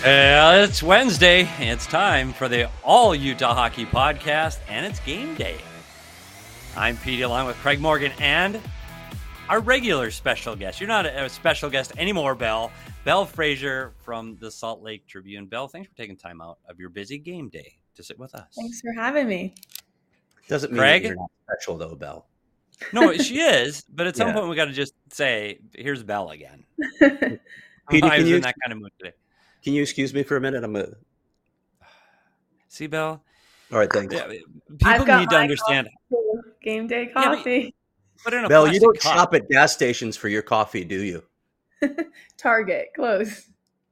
It's Wednesday. It's time for the All Utah Hockey Podcast, and it's game day. I'm Pete, along with Craig Morgan and our regular special guest. You're not a special guest anymore, Belle. Belle Fraser from the Salt Lake Tribune. Belle, thanks for taking time out of your busy game day to sit with us. Thanks for having me. Doesn't mean Craig? that you're not special, though, Belle. No, she is, but at some point we got to just say, "Here's Belle again." Petey, I was in that kind of mood today. Can you excuse me for a minute? I'm gonna. See, Belle. All right, thanks. Yeah, people need to understand. Game day coffee. But in a Belle, you don't cup. shop at gas stations for your coffee, do you? Target, close.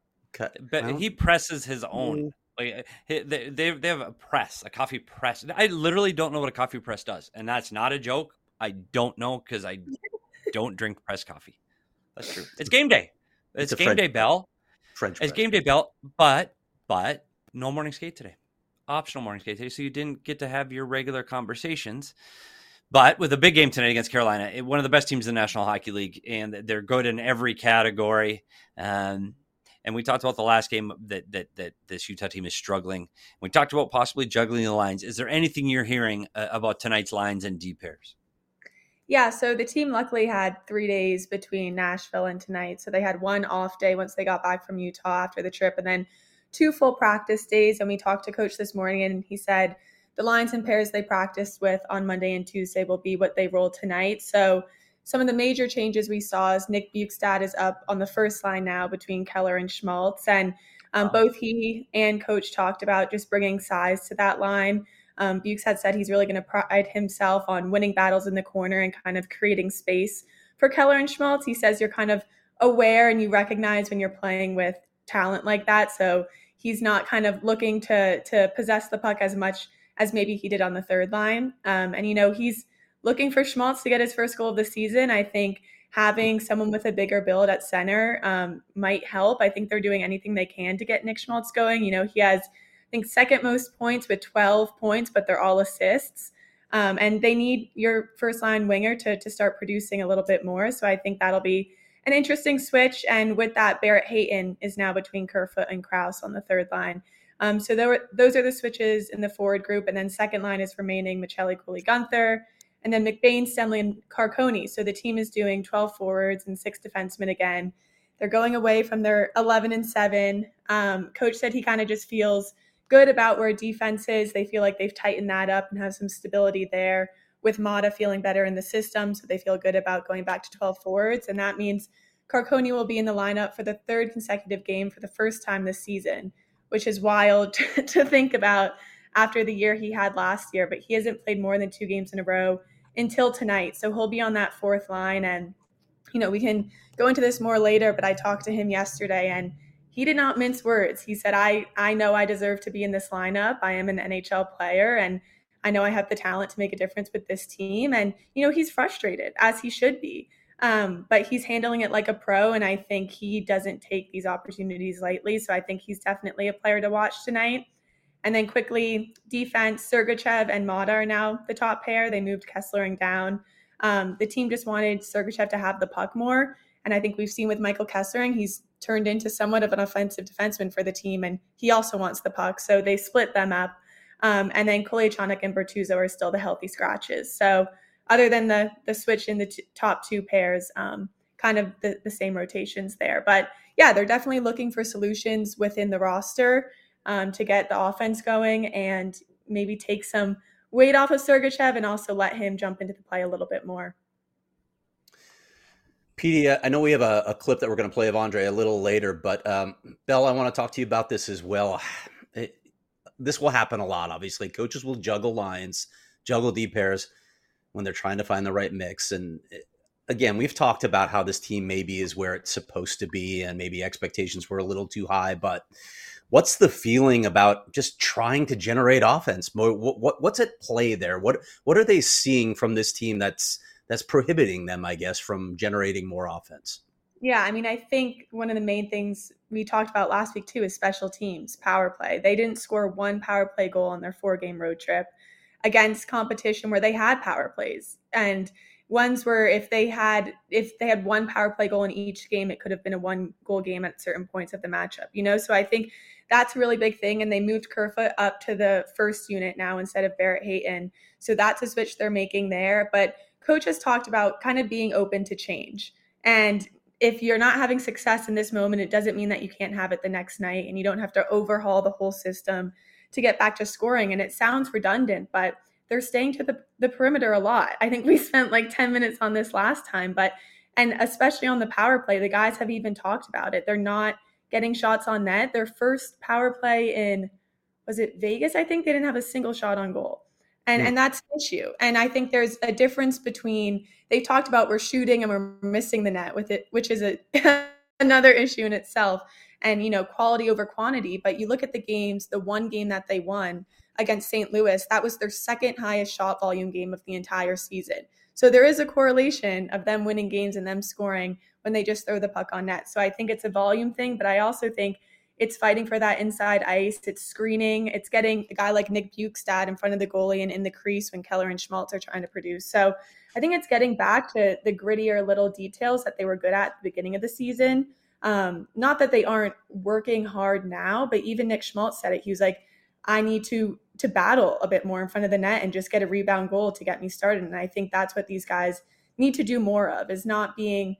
But he presses his own. Like they have a press, a coffee press. I literally don't know what a coffee press does, and that's not a joke. I don't know because I don't drink pressed coffee. That's true. It's game day. It's game day, Belle. French. It's game day, Belle. But no morning skate today. Optional morning skate today, so you didn't get to have your regular conversations. But with a big game tonight against Carolina, one of the best teams in the National Hockey League, and they're good in every category. And we talked about the last game that this Utah team is struggling. We talked about possibly juggling the lines. Is there anything you're hearing about tonight's lines and D pairs? Yeah, so the team luckily had 3 days between Nashville and tonight. So they had one off day once they got back from Utah after the trip, and then 2 full practice days. And we talked to Coach this morning, and he said the lines and pairs they practiced with on Monday and Tuesday will be what they roll tonight. So some of the major changes we saw is Nick Bjugstad is up on the first line now between Keller and Schmaltz. And both he and Coach talked about just bringing size to that line. Bjugstad said he's really going to pride himself on winning battles in the corner and kind of creating space for Keller and Schmaltz. He says you're kind of aware and you recognize when you're playing with talent like that. So he's not kind of looking to possess the puck as much as maybe he did on the third line. And, he's looking for Schmaltz to get his first goal of the season. I think having someone with a bigger build at center might help. I think they're doing anything they can to get Nick Schmaltz going. He has, I think, second most points with 12 points, but they're all assists. And they need your first line winger to start producing a little bit more. So I think that'll be an interesting switch. And with that, Barrett Hayton is now between Kerfoot and Krause on the third line. So those are the switches in the forward group. And then second line is remaining Michelli, Cooley, Gunther, and then McBain, Stenley, and Carconi. So the team is doing 12 forwards and 6 defensemen again. They're going away from their 11-7. Coach said he kind of just feels good about where defense is. They feel like they've tightened that up and have some stability there, with Mata feeling better in the system. So they feel good about going back to 12 forwards. And that means Carconi will be in the lineup for the 3rd consecutive game for the first time this season, which is wild to think about after the year he had last year. But he hasn't played more than 2 games in a row until tonight. So he'll be on that 4th line. And, we can go into this more later, but I talked to him yesterday and he did not mince words. He said, I know I deserve to be in this lineup. I am an NHL player and I know I have the talent to make a difference with this team. And, he's frustrated, as he should be. But he's handling it like a pro. And I think he doesn't take these opportunities lightly. So I think he's definitely a player to watch tonight. And then quickly, defense, Sergachev and Mata are now the top pair. They moved Kesslering down. The team just wanted Sergachev to have the puck more. And I think we've seen with Michael Kesslering, he's turned into somewhat of an offensive defenseman for the team. And he also wants the puck. So they split them up. And then Kolyachonok and Bertuzzo are still the healthy scratches. So other than the switch in the top 2 pairs, kind of the same rotations there. But yeah, they're definitely looking for solutions within the roster to get the offense going and maybe take some weight off of Sergachev and also let him jump into the play a little bit more. Petey, I know we have a clip that we're going to play of Andre a little later, but Belle, I want to talk to you about this as well. This will happen a lot, obviously. Coaches will juggle lines, juggle D pairs when they're trying to find the right mix. And again, we've talked about how this team maybe is where it's supposed to be and maybe expectations were a little too high. But what's the feeling about just trying to generate offense? What's at play there? What are they seeing from this team that's prohibiting them, I guess, from generating more offense? Yeah, I think one of the main things we talked about last week, too, is special teams, power play. They didn't score 1 power play goal on their 4-game road trip against competition where they had power plays. And ones where if they had one power play goal in each game, it could have been a 1-goal game at certain points of the matchup, So I think that's a really big thing. And they moved Kerfoot up to the first unit now instead of Barrett Hayton. So that's a switch they're making there. But coach has talked about kind of being open to change. And if you're not having success in this moment, it doesn't mean that you can't have it the next night, and you don't have to overhaul the whole system to get back to scoring. And it sounds redundant, but they're staying to the perimeter a lot. I think we spent like 10 minutes on this last time, and especially on the power play, the guys have even talked about it. They're not getting shots on net. Their first power play in, was it Vegas? I think they didn't have a single shot on goal. And that's an issue. And I think there's a difference between, they talked about we're shooting and we're missing the net with it, which is another issue in itself. And, quality over quantity. But you look at the games, the one game that they won against St. Louis, that was their second highest shot volume game of the entire season. So there is a correlation of them winning games and them scoring when they just throw the puck on net. So I think it's a volume thing, but I also think it's fighting for that inside ice. It's screening. It's getting a guy like Nick Bjugstad in front of the goalie and in the crease when Keller and Schmaltz are trying to produce. So I think it's getting back to the grittier little details that they were good at the beginning of the season. Not that they aren't working hard now, but even Nick Schmaltz said it. He was like, I need to battle a bit more in front of the net and just get a rebound goal to get me started. And I think that's what these guys need to do more of, is not being,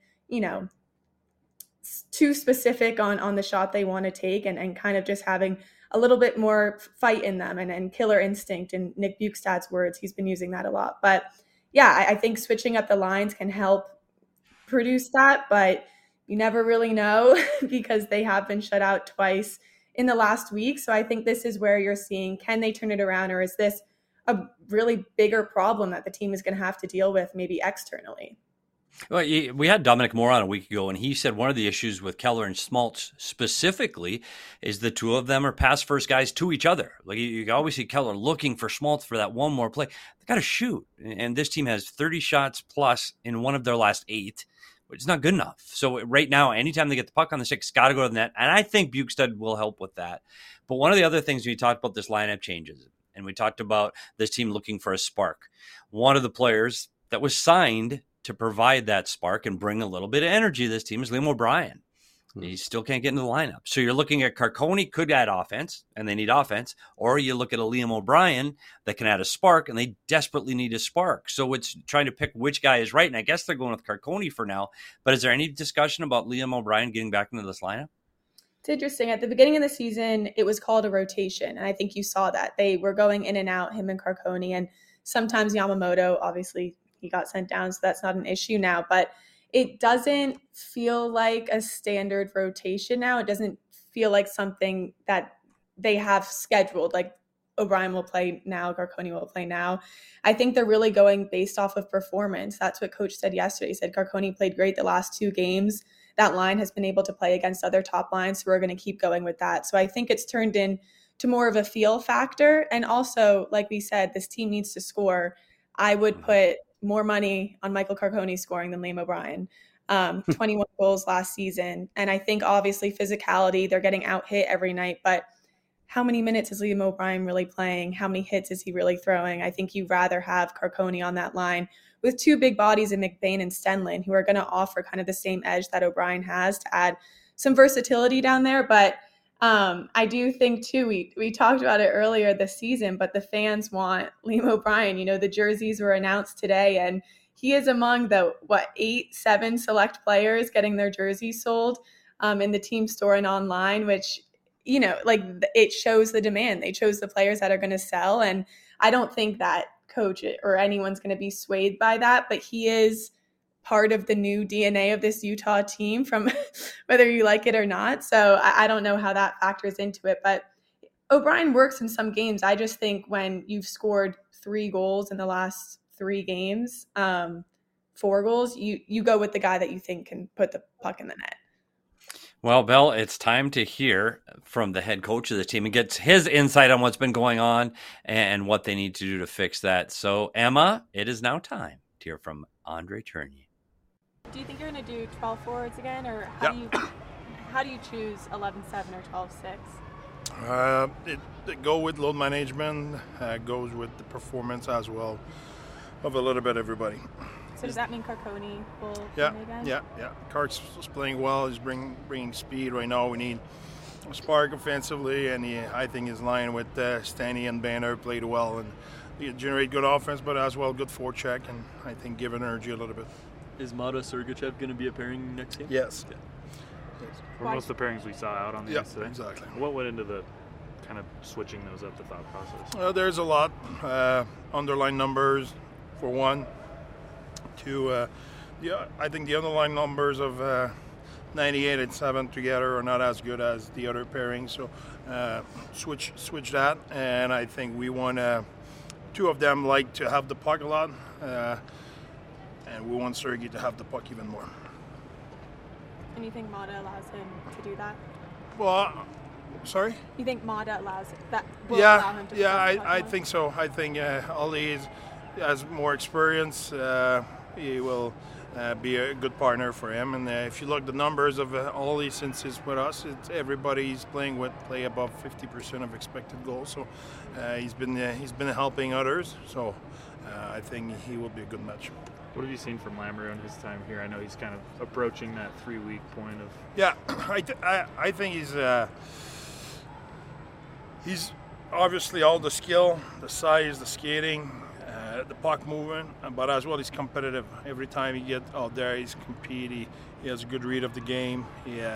too specific on the shot they want to take, and kind of just having a little bit more fight in them and killer instinct. In Nick Bjugstad's words, he's been using that a lot. But yeah, I think switching up the lines can help produce that, but you never really know because they have been shut out twice in the last week. So I think this is where you're seeing, can they turn it around, or is this a really bigger problem that the team is going to have to deal with maybe externally? Well, we had Dominic Moore on a week ago, and he said one of the issues with Keller and Schmaltz specifically is the two of them are pass-first guys to each other. Like you always see Keller looking for Schmaltz for that one more play. They got to shoot, and this team has 30 shots plus in one of their last 8, which is not good enough. So right now, anytime they get the puck on the stick, it's got to go to the net, and I think Bjugstad will help with that. But one of the other things we talked about, this lineup changes, and we talked about this team looking for a spark. One of the players that was signed to provide that spark and bring a little bit of energy to this team is Liam O'Brien. He still can't get into the lineup. So you're looking at Carcone could add offense, and they need offense, or you look at a Liam O'Brien that can add a spark, and they desperately need a spark. So it's trying to pick which guy is right, and I guess they're going with Carcone for now. But is there any discussion about Liam O'Brien getting back into this lineup? It's interesting. At the beginning of the season, it was called a rotation, and I think you saw that. They were going in and out, him and Carcone, and sometimes Yamamoto, obviously, he got sent down, so that's not an issue now. But it doesn't feel like a standard rotation now. It doesn't feel like something that they have scheduled, like O'Brien will play now, Carcone will play now. I think they're really going based off of performance. That's what coach said yesterday. He said Carcone played great the last 2 games. That line has been able to play against other top lines, so we're going to keep going with that. So I think it's turned into more of a feel factor. And also, like we said, this team needs to score. I would put more money on Michael Carcone scoring than Liam O'Brien. 21 goals last season. And I think obviously physicality, they're getting out hit every night, but how many minutes is Liam O'Brien really playing? How many hits is he really throwing? I think you'd rather have Carcone on that line with 2 big bodies in McBain and Stenlin, who are going to offer kind of the same edge that O'Brien has to add some versatility down there. But I do think too, we talked about it earlier this season, but the fans want Liam O'Brien. The jerseys were announced today, and he is among the 7 select players getting their jerseys sold in the team store and online, which, it shows the demand. They chose the players that are going to sell. And I don't think that coach or anyone's going to be swayed by that, but he is part of the new DNA of this Utah team, from whether you like it or not. So I don't know how that factors into it, but O'Brien works in some games. I just think when you've scored 3 goals in the last 3 games, 4 goals, you go with the guy that you think can put the puck in the net. Well, Belle, it's time to hear from the head coach of the team and get his insight on what's been going on and what they need to do to fix that. So, Emma, it is now time to hear from Andre Tourigny. Do you think you're going to do 12 forwards again, or how do you choose 11-7 or 12-6? It go with load management, goes with the performance as well of a little bit everybody. So does that mean Carconi will Yeah, play again? yeah. Cart's playing well. He's bringing speed right now. We need a spark offensively, and I think his line with Stanley and Banner played well and they generate good offense, but as well good forecheck, and I think give energy a little bit. Is Mata Sergachev going to be a pairing next game? Yes. For most of the pairings we saw out on the ice today. Exactly. What went into the kind of switching those up, the thought process? There's a lot. Underlying numbers, for one. Two, I think the underlying numbers of 98 and 7 together are not as good as the other pairings. So switch that. And I think we want two of them like to have the puck a lot. And we want Sergei to have the puck even more. And you think Mata allows him to do that? Well, sorry? You think Mata allow him to I think so. I think Ali has more experience. He will be a good partner for him. And if you look at the numbers of Ali since he's with us, everybody he's playing with play above 50% of expected goals. So he's been helping others. So I think he will be a good match. What have you seen from Lamoureux in his time here? I know he's kind of approaching that 3-week point of. Yeah, I think he's obviously all the skill, the size, the skating, the puck movement, but as well he's competitive. Every time he gets out there, he's compete. He has a good read of the game.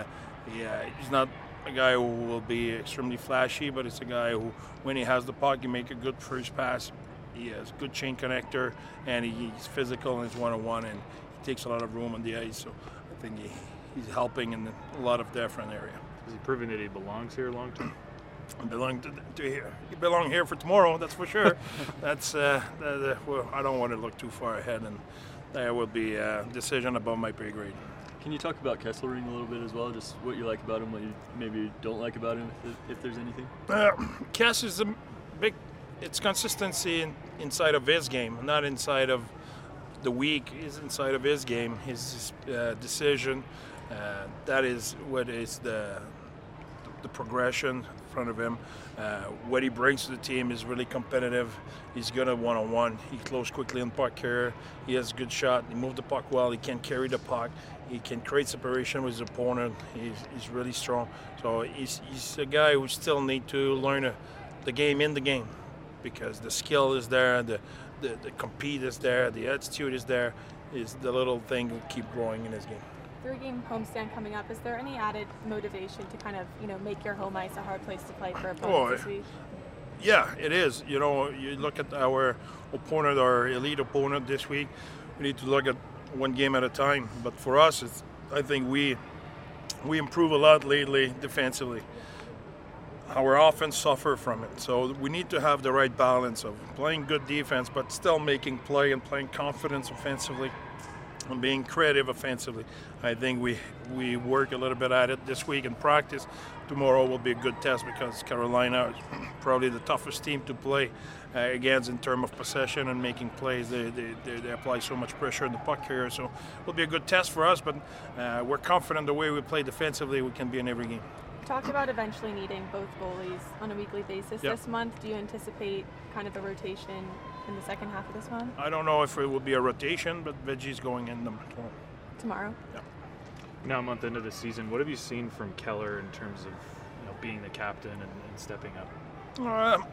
He's not a guy who will be extremely flashy, but it's a guy who, when he has the puck, he make a good first pass. He has good chain connector, and he's physical and he's one-on-one, and he takes a lot of room on the ice. So I think he's helping in a lot of different areas. Is he proving that he belongs here long term? Belong to here. You belong here for tomorrow, that's for sure. That's well, I don't want to look too far ahead, and there will be a decision above my pay grade. Can you talk about Kesselring a little bit as well? Just what you like about him, what you maybe don't like about him, if there's anything? Kess is a big. It's consistency inside of his game, not inside of the week. Is inside of his game, his decision. That is what is the progression in front of him. What he brings to the team is really competitive. He's good at one-on-one. He closes quickly on puck carrier. He has a good shot. He moves the puck well. He can carry the puck. He can create separation with his opponent. He's really strong. So he's a guy who still need to learn the game in the game, because the skill is there, the compete is there, the attitude is there. Is the little thing will keep growing in his game. 3-game homestand coming up. Is there any added motivation to kind of, make your home ice a hard place to play for opponents this week? Yeah, it is. You look at our opponent, our elite opponent this week. We need to look at one game at a time. But for us, I think we improve a lot lately defensively. Our offense suffer from it. So we need to have the right balance of playing good defense, but still making play and playing confidence offensively and being creative offensively. I think we work a little bit at it this week in practice. Tomorrow will be a good test because Carolina is probably the toughest team to play against in terms of possession and making plays. They apply so much pressure in the puck carrier, so it will be a good test for us, but we're confident the way we play defensively, we can be in every game. Talked about eventually needing both goalies on a weekly basis Yep. this month. Do you anticipate kind of a rotation in the second half of this month? I don't know if it will be a rotation, but Veggie's going in Tomorrow? Yeah. Now, a month into the season, what have you seen from Keller in terms of being the captain and stepping up?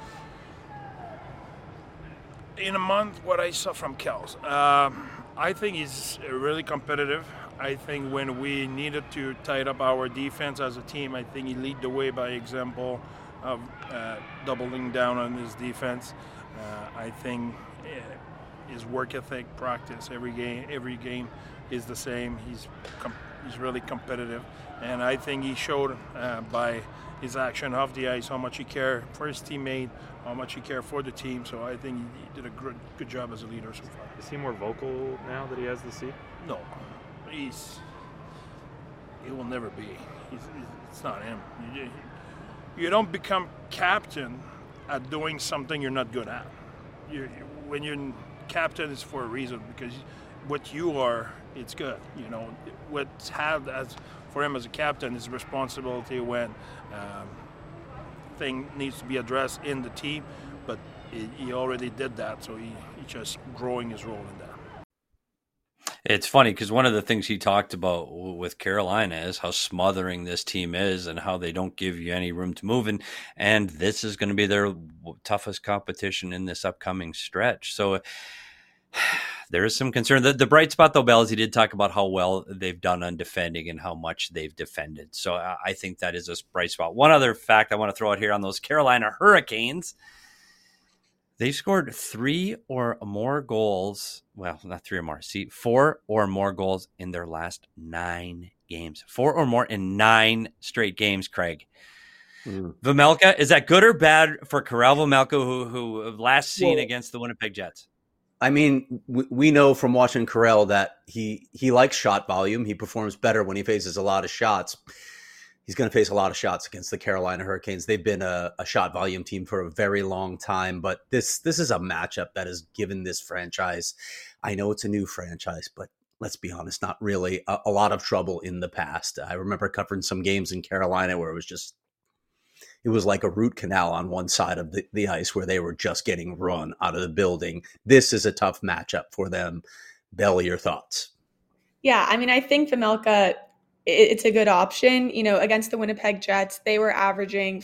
In a month, what I saw from Kels, I think he's really competitive. I think when we needed to tighten up our defense as a team, I think he lead the way by example of doubling down on his defense. I think his work ethic, practice, every game is the same. He's really competitive, and I think he showed by his action off the ice how much he cared for his teammate, how much he cared for the team. So I think he did a good job as a leader so far. Is he more vocal now that he has the seat? No, he will never be. It's not him. You don't become captain at doing something you're not good at. When you're captain, it's for a reason, because what you are, it's good. What's had as for him as a captain is responsibility when thing needs to be addressed in the team, but he already did that, so he just growing his role in that. It's funny because one of the things he talked about with Carolina is how smothering this team is and how they don't give you any room to move. And this is going to be their toughest competition in this upcoming stretch. So there is some concern. The bright spot, though, Bell, is he did talk about how well they've done on defending and how much they've defended. So I think that is a bright spot. One other fact I want to throw out here on those Carolina Hurricanes. They've scored 3 or more goals. Well, not 3 or more. See, 4 or more goals in their last 9 games. 4 or more in 9 straight games, Craig. Vejmelka, is that good or bad for Karel Vejmelka, who last seen against the Winnipeg Jets? I mean, we know from watching Karel that he likes shot volume. He performs better when he faces a lot of shots. He's going to face a lot of shots against the Carolina Hurricanes. They've been a shot volume team for a very long time, but this is a matchup that has given this franchise, I know it's a new franchise, but let's be honest, not really a lot of trouble in the past. I remember covering some games in Carolina where it was like a root canal on one side of the ice where they were just getting run out of the building. This is a tough matchup for them. Bell, your thoughts? Yeah, I mean, I think Vejmelka, it's a good option. You know, against the Winnipeg Jets, they were averaging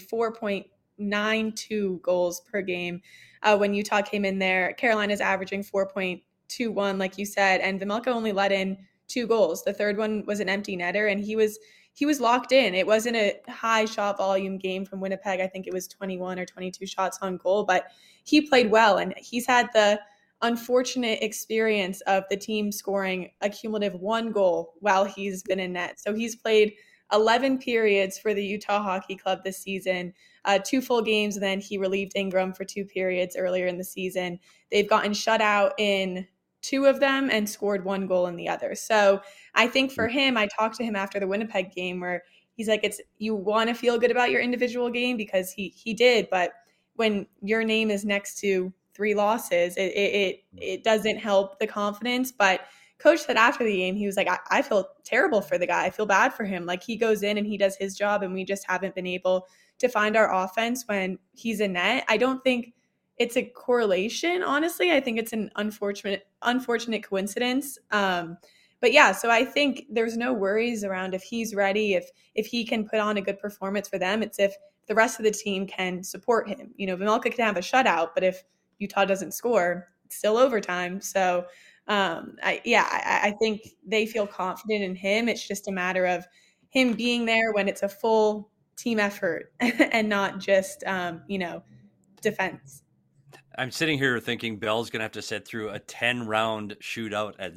4.92 goals per game. When Utah came in there, Carolina's averaging 4.21, like you said, and Vejmelka only let in 2 goals. The third one was an empty netter, and he was locked in. It wasn't a high shot volume game from Winnipeg. I think it was 21 or 22 shots on goal, but he played well, and he's had the unfortunate experience of the team scoring a cumulative 1 goal while he's been in net. So he's played 11 periods for the Utah Hockey Club this season, 2 full games, and then he relieved Ingram for 2 periods earlier in the season. They've gotten shut out in 2 of them and scored 1 goal in the other. So I think for him, I talked to him after the Winnipeg game where he's like, you want to feel good about your individual game because he did, but when your name is next to 3 losses, it doesn't help the confidence. But coach said after the game, he was like, I feel terrible for the guy. I feel bad for him. Like, he goes in and he does his job, and we just haven't been able to find our offense when he's in net. I don't think it's a correlation, honestly. I think it's an unfortunate coincidence. But yeah, so I think there's no worries around if he's ready, if he can put on a good performance for them. It's if the rest of the team can support him. You know, Vejmelka can have a shutout, but if Utah doesn't score, it's still overtime. So I think they feel confident in him. It's just a matter of him being there when it's a full team effort and not just, defense. I'm sitting here thinking Bell's going to have to sit through a 10-round shootout at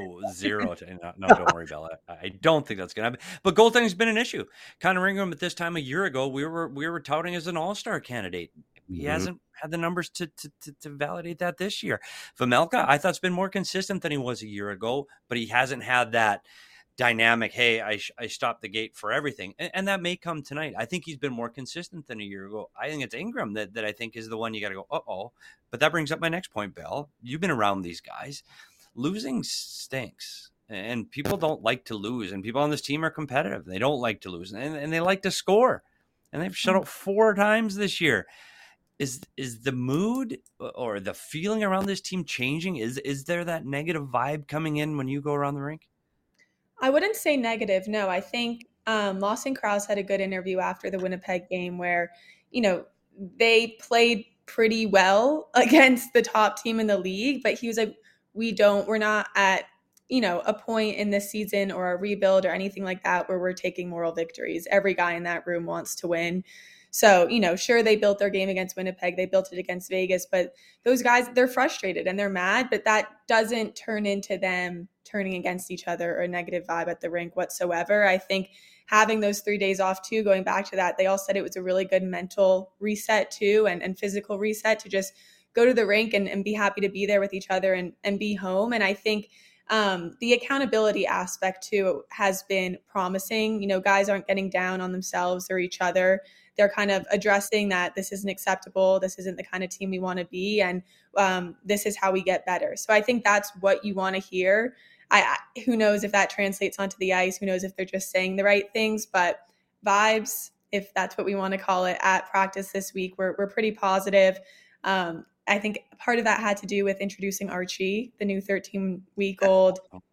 0-0. No, don't worry, Bell. I don't think that's going to happen. But goaltending's been an issue. Connor Ingram at this time a year ago, we were touting as an all-star candidate. He hasn't had the numbers to validate that this year. Vejmelka, I thought, has been more consistent than he was a year ago, but he hasn't had that dynamic, hey, I stopped the gate for everything. And that may come tonight. I think he's been more consistent than a year ago. I think it's Ingram that I think is the one you got to go, uh-oh. But that brings up my next point, Bell. You've been around these guys. Losing stinks. And people don't like to lose. And people on this team are competitive. They don't like to lose. And they like to score. And they've shut out 4 times this year. Is the mood or the feeling around this team changing? Is there that negative vibe coming in when you go around the rink? I wouldn't say negative. No, I think Lawson Crouse had a good interview after the Winnipeg game where, they played pretty well against the top team in the league, but he was like, we're not at, a point in this season or a rebuild or anything like that where we're taking moral victories. Every guy in that room wants to win. So, sure, they built their game against Winnipeg. They built it against Vegas, but those guys, they're frustrated and they're mad, but that doesn't turn into them turning against each other or a negative vibe at the rink whatsoever. I think having those 3 days off too, going back to that, they all said it was a really good mental reset too, and physical reset to just go to the rink and be happy to be there with each other and be home. And I think the accountability aspect too has been promising. Guys aren't getting down on themselves or each other. They're kind of addressing that this isn't acceptable. This isn't the kind of team we want to be. And this is how we get better. So I think that's what you want to hear. Who knows if that translates onto the ice? Who knows if they're just saying the right things? But vibes, if that's what we want to call it, at practice this week, we're pretty positive. I think part of that had to do with introducing Archie, the new 13-week-old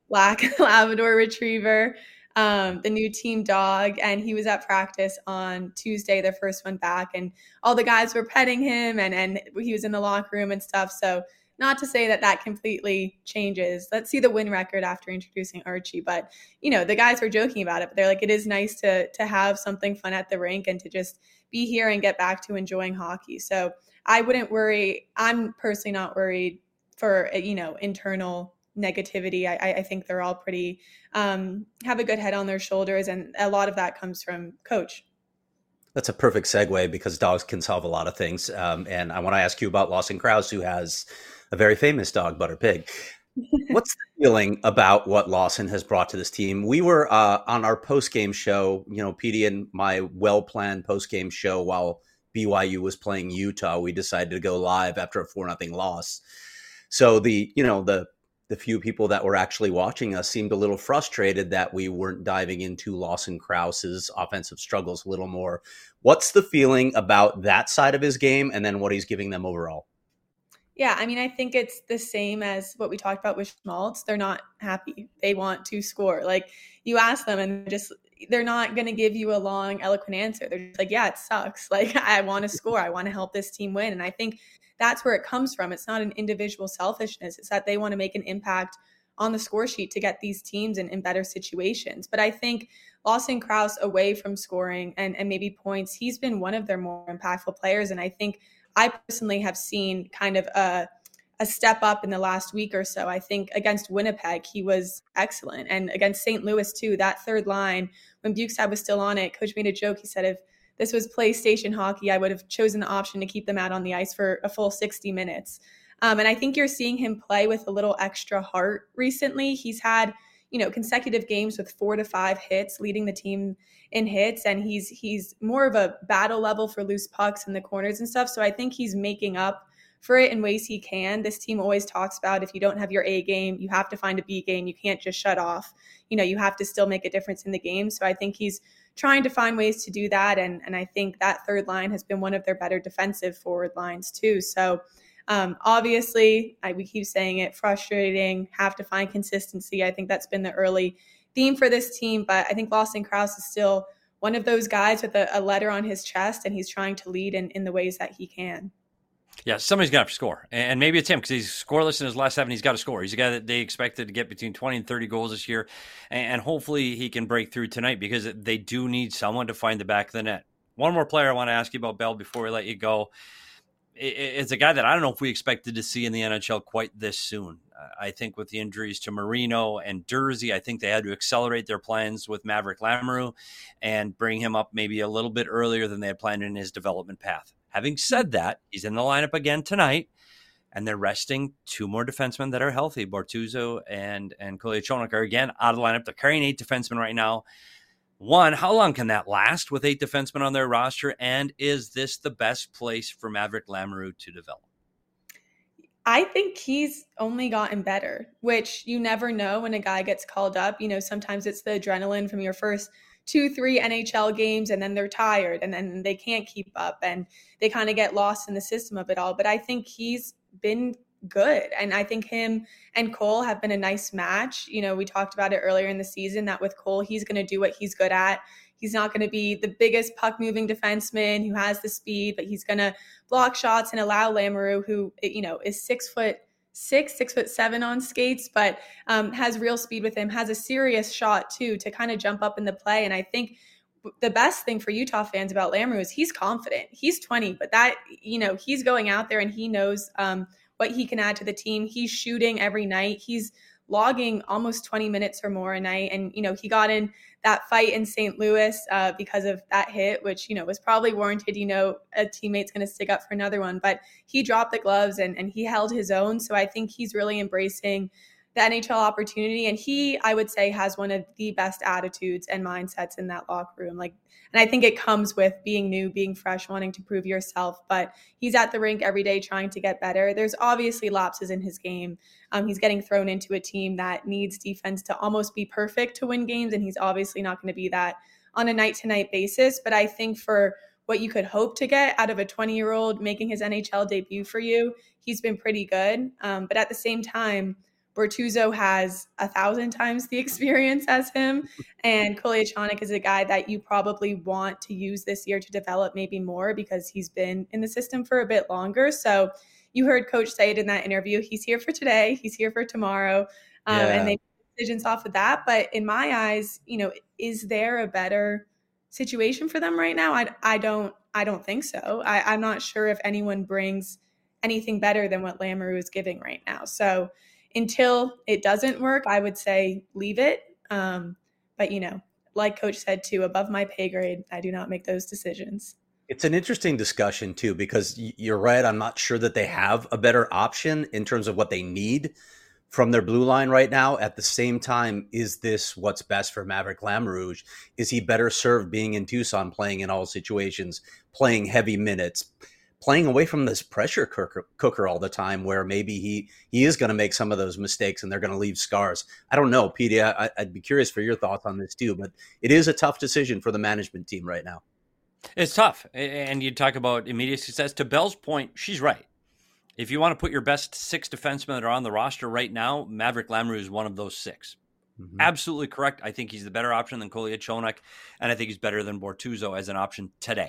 black Labrador retriever, the new team dog. And he was at practice on Tuesday, their first one back. And all the guys were petting him and he was in the locker room and stuff. So not to say that completely changes. Let's see the win record after introducing Archie. But, the guys were joking about it. But they're like, it is nice to have something fun at the rink and to just be here and get back to enjoying hockey. So I wouldn't worry. I'm personally not worried for, internal negativity. I think they're all pretty, have a good head on their shoulders. And a lot of that comes from coach. That's a perfect segue because dogs can solve a lot of things. And I want to ask you about Lawson Crouse, who has a very famous dog, Butter Pig. What's the feeling about what Lawson has brought to this team? We were on our post-game show, Petey and my well-planned post-game show while BYU was playing Utah. We decided to go live after a 4-0 loss. So the few people that were actually watching us seemed a little frustrated that we weren't diving into Lawson Crouse's offensive struggles a little more. What's the feeling about that side of his game and then what he's giving them overall? Yeah, I think it's the same as what we talked about with Schmaltz. They're not happy. They want to score. Like, you ask them and they're not going to give you a long, eloquent answer. They're just like, yeah, it sucks. Like, I want to score. I want to help this team win. And I think that's where it comes from. It's not an individual selfishness. It's that they want to make an impact on the score sheet to get these teams in better situations. But I think Lawson Crouse, away from scoring and maybe points, he's been one of their more impactful players. And I think I personally have seen kind of a step up in the last week or so. I think against Winnipeg, he was excellent. And against St. Louis, too, that third line, when Bukestad was still on it, Coach made a joke. He said, if this was PlayStation hockey, I would have chosen the option to keep them out on the ice for a full 60 minutes. And I think you're seeing him play with a little extra heart recently. He's had, consecutive games with 4 to 5 hits, leading the team in hits. And he's more of a battle level for loose pucks in the corners and stuff. So I think he's making up for it in ways he can. This team always talks about if you don't have your A game, you have to find a B game. You can't just shut off. You have to still make a difference in the game. So I think he's trying to find ways to do that. And I think that third line has been one of their better defensive forward lines too. So obviously, we keep saying it, frustrating, have to find consistency. I think that's been the early theme for this team. But I think Lawson Crouse is still one of those guys with a letter on his chest, and he's trying to lead in the ways that he can. Yeah, somebody's going to have to score. And maybe it's him because he's scoreless in his last 7. He's got to score. He's a guy that they expected to get between 20 and 30 goals this year. And hopefully he can break through tonight because they do need someone to find the back of the net. One more player I want to ask you about, Bell, before we let you go. It's a guy that I don't know if we expected to see in the NHL quite this soon. I think with the injuries to Marino and Dursey, I think they had to accelerate their plans with Maverick Lamoureux and bring him up maybe a little bit earlier than they had planned in his development path. Having said that, he's in the lineup again tonight, and they're resting 2 more defensemen that are healthy. Bortuzzo and Kolyachonok are again out of the lineup. They're carrying 8 defensemen right now. One, how long can that last with 8 defensemen on their roster? And is this the best place for Maverick Lamoureux to develop? I think he's only gotten better, which you never know when a guy gets called up. Sometimes it's the adrenaline from your first 2-3 NHL games, and then they're tired and then they can't keep up and they kind of get lost in the system of it all. But I think he's been good. And I think him and Cole have been a nice match. We talked about it earlier in the season that with Cole, he's going to do what he's good at. He's not going to be the biggest puck moving defenseman who has the speed, but he's going to block shots and allow Lamoureux, who, is 6'6", 6'7" on skates, but has real speed with him, has a serious shot too, to kind of jump up in the play. And I think the best thing for Utah fans about Lamoureux is he's confident. He's 20, but that, he's going out there and he knows what he can add to the team. He's shooting every night. He's logging almost 20 minutes or more a night. And, he got in that fight in St. Louis because of that hit, which, was probably warranted. A teammate's going to stick up for another one, but he dropped the gloves and he held his own. So I think he's really embracing the NHL opportunity. And he, I would say, has one of the best attitudes and mindsets in that locker room. And I think it comes with being new, being fresh, wanting to prove yourself. But he's at the rink every day trying to get better. There's obviously lapses in his game. He's getting thrown into a team that needs defense to almost be perfect to win games. And he's obviously not going to be that on a night-to-night basis. But I think for what you could hope to get out of a 20-year-old making his NHL debut for you, he's been pretty good. But at the same time, Bortuzzo has 1,000 times the experience as him. And Koleachonok is a guy that you probably want to use this year to develop maybe more because he's been in the system for a bit longer. So you heard Coach say it in that interview. He's here for today. He's here for tomorrow. And they make decisions off of that. But in my eyes, is there a better situation for them right now? I don't think so. I'm not sure if anyone brings anything better than what Lamoureux is giving right now. So until it doesn't work, I would say leave it. But, like Coach said too, above my pay grade, I do not make those decisions. It's an interesting discussion too, because you're right. I'm not sure that they have a better option in terms of what they need from their blue line right now. At the same time, is this what's best for Maverick Lamoureux? Is he better served being in Tucson, playing in all situations, playing heavy minutes, playing away from this pressure cooker all the time, where maybe he is going to make some of those mistakes and they're going to leave scars? I don't know, Petey. I'd be curious for your thoughts on this too, but it is a tough decision for the management team right now. It's tough. And you talk about immediate success. To Belle's point, she's right. If you want to put your best 6 defensemen that are on the roster right now, Maverick Lamoureux is one of those 6. Mm-hmm. Absolutely correct. I think he's the better option than Koleachonok, and I think he's better than Bortuzzo as an option today.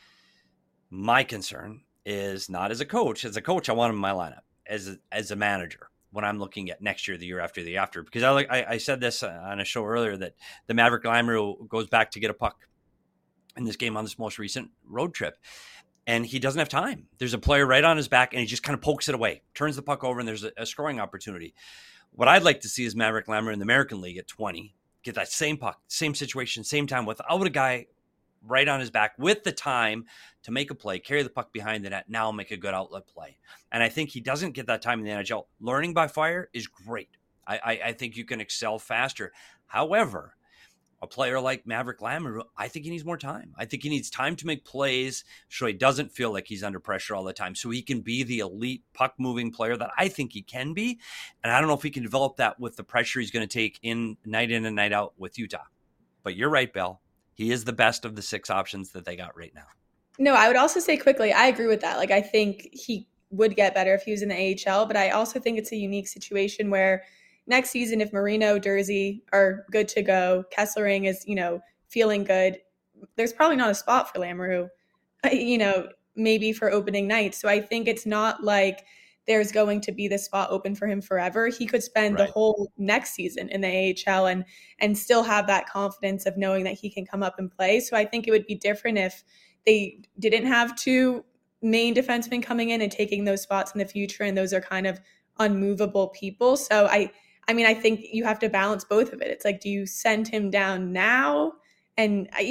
My concern is not as a coach. As a coach, I want him in my lineup. As a manager, when I'm looking at next year, the year after, because I said this on a show earlier that the Maverick Lamoureux goes back to get a puck in this game on this most recent road trip, and he doesn't have time. There's a player right on his back, and he just kind of pokes it away, turns the puck over, and there's a scoring opportunity. What I'd like to see is Maverick Lamoureux in the American League at 20, get that same puck, same situation, same time, without a guy right on his back, with the time to make a play, carry the puck behind the net, now make a good outlet play. And I think he doesn't get that time in the NHL. Learning by fire is great. I think you can excel faster. However, a player like Maverick Lamoureux, I think he needs more time. I think he needs time to make plays so he doesn't feel like he's under pressure all the time, so he can be the elite puck-moving player that I think he can be. And I don't know if he can develop that with the pressure he's going to take in and night out with Utah. But you're right, Belle. He is the best of the 6 options that they got right now. No, I would also say quickly, I agree with that. I think he would get better if he was in the AHL, but I also think it's a unique situation where next season, if Marino, Durzi are good to go, Kesselring is, feeling good, there's probably not a spot for Lamoureux, maybe for opening night. So I think it's not like there's going to be the spot open for him forever. He could spend the whole next season in the AHL and still have that confidence of knowing that he can come up and play. So I think it would be different if they didn't have 2 main defensemen coming in and taking those spots in the future, and those are kind of unmovable people. So I think you have to balance both of it. It's like, do you send him down now? And I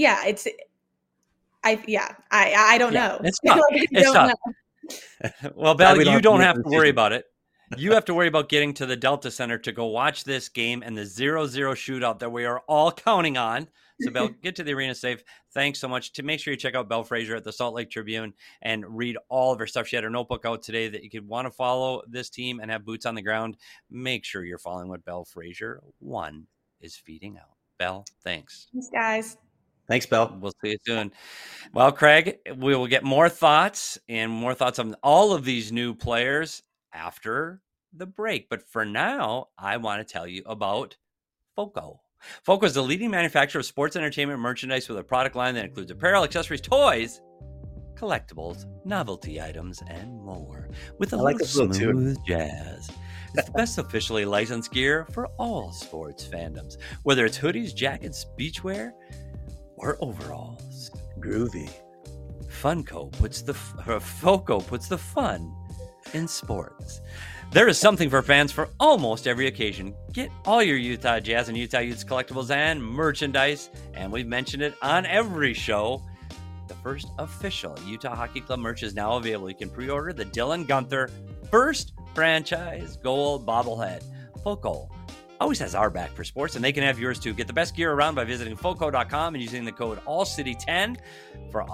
don't know. It's tough. It's tough. Well, Belle, you don't have to worry about it. You have to worry about getting to the Delta Center to go watch this game and the 0-0 shootout that we are all counting on. So, Belle, get to the arena safe. Thanks so much. To make sure you check out Belle Fraser at the Salt Lake Tribune and read all of her stuff. She had her notebook out today that you could want to follow this team and have boots on the ground. Make sure you're following what Belle Fraser 1 is feeding out. Belle, thanks. Thanks, guys. Thanks, Belle. We'll see you soon. Well, Craig, we will get more thoughts on all of these new players after the break. But for now, I want to tell you about FOCO. FOCO is the leading manufacturer of sports entertainment merchandise with a product line that includes apparel, accessories, toys, collectibles, novelty items, and more. With a little smooth jazz. It's the best officially licensed gear for all sports fandoms. Whether it's hoodies, jackets, beachwear, or overalls. Groovy. FOCO puts the fun in sports. There is something for fans for almost every occasion. Get all your Utah Jazz and Utah Utes collectibles and merchandise, and we've mentioned it on every show. The first official Utah Hockey Club merch is now available. You can pre-order the Dylan Guenther first franchise gold bobblehead. FOCO always has our back for sports, and they can have yours too. Get the best gear around by visiting FOCO.com and using the code ALLCITY10 for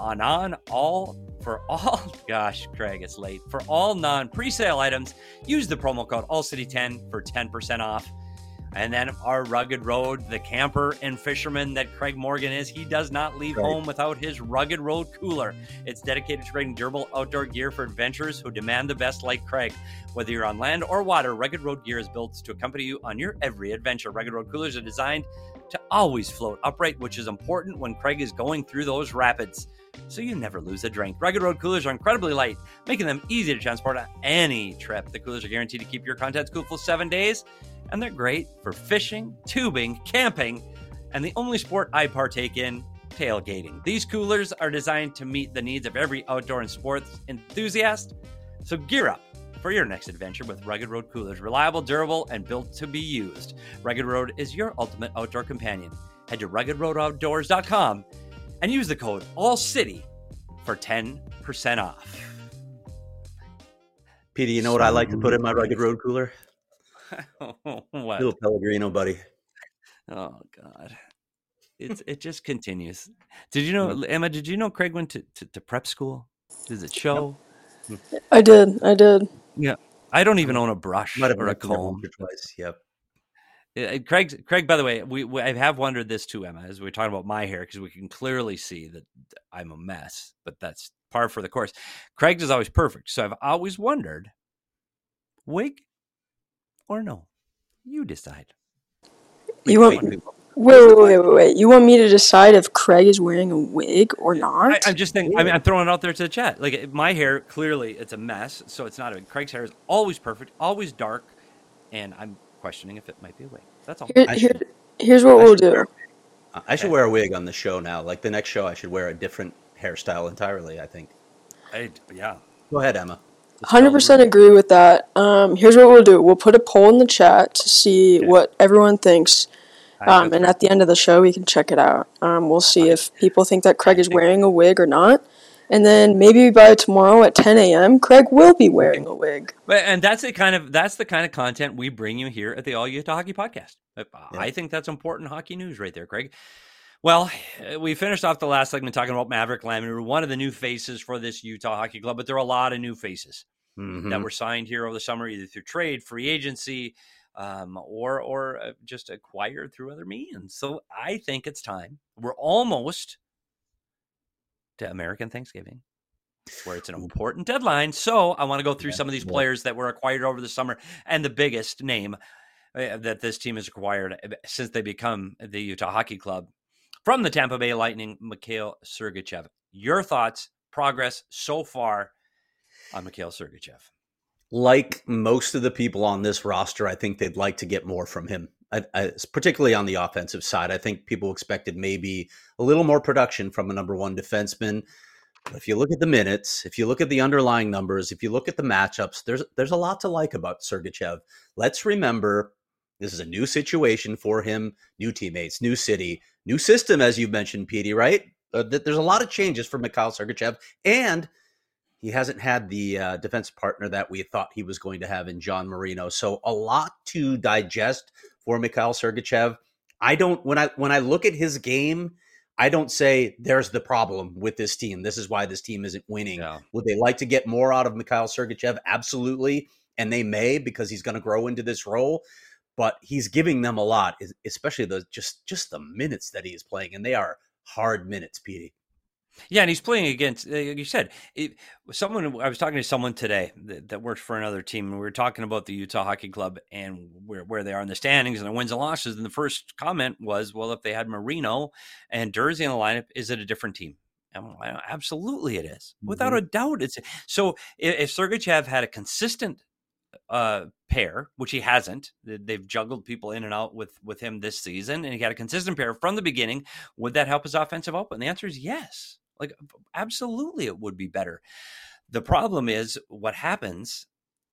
all non-presale items. Use the promo code ALLCITY10 for 10% off. And then our rugged road, the camper and fisherman that Craig Morgan is, he does not leave home without his rugged road cooler. It's dedicated to creating durable outdoor gear for adventurers who demand the best like Craig. Whether you're on land or water, Rugged Road gear is built to accompany you on your every adventure. Rugged Road coolers are designed to always float upright, which is important when Craig is going through those rapids, so you never lose a drink. Rugged Road coolers are incredibly light, making them easy to transport on any trip. The coolers are guaranteed to keep your contents cool for 7 days, and they're great for fishing, tubing, camping, and the only sport I partake in, tailgating. These coolers are designed to meet the needs of every outdoor and sports enthusiast, so gear up for your next adventure with Rugged Road coolers. Reliable, durable, and built to be used. Rugged Road is your ultimate outdoor companion. Head to ruggedroadoutdoors.com and use the code ALLCITY for 10% off. Petey, you know what I like to put in my Rugged Road cooler? What? Little Pellegrino, buddy. Oh, God. It just continues. Did you know, Emma, did you know Craig went to prep school? Does it show? I did. Yeah. I don't even own a brush Might have or a been there comb. once or twice. Yep. Craig, by the way, I have wondered this too, Emma, as we're talking about my hair, because we can clearly see that I'm a mess, but that's par for the course. Craig's is always perfect. So I've always wondered, wig or no? You decide. Wait. You want me to decide if Craig is wearing a wig or not? I'm just thinking, I'm throwing it out there to the chat. Like, my hair, clearly it's a mess, so it's not a wig. Craig's hair is always perfect, always dark, and I'm questioning if it might be a wig. That's all. Here's what we'll do. I should wear a wig on the show now. Like the next show, I should wear a different hairstyle entirely, I think. Yeah. Go ahead, Emma. 100% agree with that. Here's what we'll do. We'll put a poll in the chat to see what everyone thinks. And at the end of the show, we can check it out. We'll see if people think that Craig is wearing a wig or not. And then maybe by tomorrow at 10 a.m., Craig will be wearing a wig. And that's the kind of content we bring you here at the All Utah Hockey Podcast. I think that's important hockey news right there, Craig. Well, we finished off the last segment talking about Maverick Lamoureux, one of the new faces for this Utah Hockey Club, but there are a lot of new faces that were signed here over the summer, either through trade, free agency, or just acquired through other means. So I think it's time. We're almost to American Thanksgiving, where it's an important deadline. So I want to go through some of these players that were acquired over the summer, and the biggest name that this team has acquired since they become the Utah Hockey Club, from the Tampa Bay Lightning, Mikhail Sergachev. Your thoughts, progress so far on Mikhail Sergachev? Like most of the people on this roster, I think they'd like to get more from him, particularly on the offensive side. I think people expected maybe a little more production from a number one defenseman. But if you look at the minutes, if you look at the underlying numbers, if you look at the matchups, there's a lot to like about Sergachev. Let's remember, this is a new situation for him, new teammates, new city, new system, as you've mentioned, Petey, right? There's a lot of changes for Mikhail Sergachev, and he hasn't had the defensive partner that we thought he was going to have in John Marino. So a lot to digest for Mikhail Sergachev. When I look at his game, I don't say there's the problem with this team. This is why this team isn't winning. Yeah. Would they like to get more out of Mikhail Sergachev? Absolutely. And they may, because he's going to grow into this role. But he's giving them a lot, especially just the minutes that he is playing. And they are hard minutes, Petey. Yeah, and he's playing against, you said, I was talking to someone today that works for another team, and we were talking about the Utah Hockey Club and where they are in the standings and the wins and losses. And the first comment was, well, if they had Marino and Durzi in the lineup, is it a different team? And absolutely it is. Without a doubt. So if Sergachev had a consistent pair, which he hasn't, they've juggled people in and out with him this season, and he got a consistent pair from the beginning, would that help his offensive output? And the answer is yes. Like, absolutely it would be better. The problem is what happens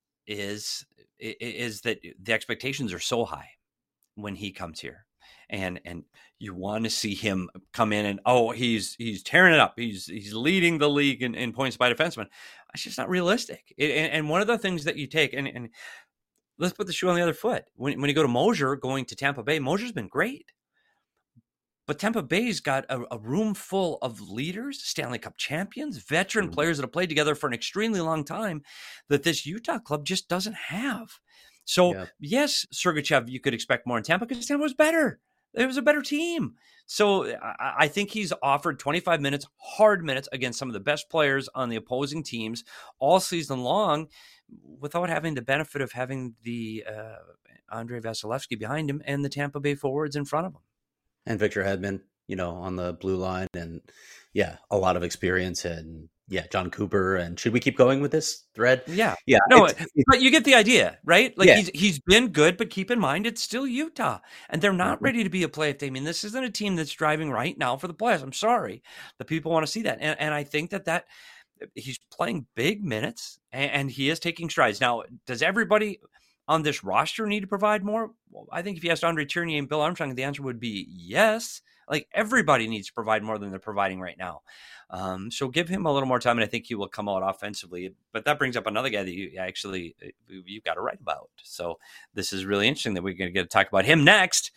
is that the expectations are so high when he comes here, and you want to see him come in and he's tearing it up, he's leading the league in points by defenseman. It's just not realistic. And one of the things that you take, and let's put the shoe on the other foot. When you go to Mosier, going to Tampa Bay, Mosier's been great. But Tampa Bay's got a room full of leaders, Stanley Cup champions, veteran players that have played together for an extremely long time that this Utah club just doesn't have. So yes, Sergachev, you could expect more in Tampa because Tampa was better. It was a better team. So I think he's offered 25 minutes, hard minutes against some of the best players on the opposing teams all season long without having the benefit of having the Andrei Vasilevsky behind him and the Tampa Bay forwards in front of him. And Victor Hedman, on the blue line, and a lot of experience, and John Cooper. And should we keep going with this thread? Yeah. No, but you get the idea, right? Like he's been good, but keep in mind it's still Utah, and they're not ready to be a playoff team. I mean, this isn't a team that's driving right now for the playoffs. I'm sorry, the people want to see that, and I think that he's playing big minutes, and he is taking strides. Now, does everybody on this roster need to provide more? Well, I think if you asked Andre Tierney and Bill Armstrong, the answer would be yes. Like everybody needs to provide more than they're providing right now. So give him a little more time, and I think he will come out offensively. But that brings up another guy that you've got to write about. So this is really interesting that we're going to get to talk about him next.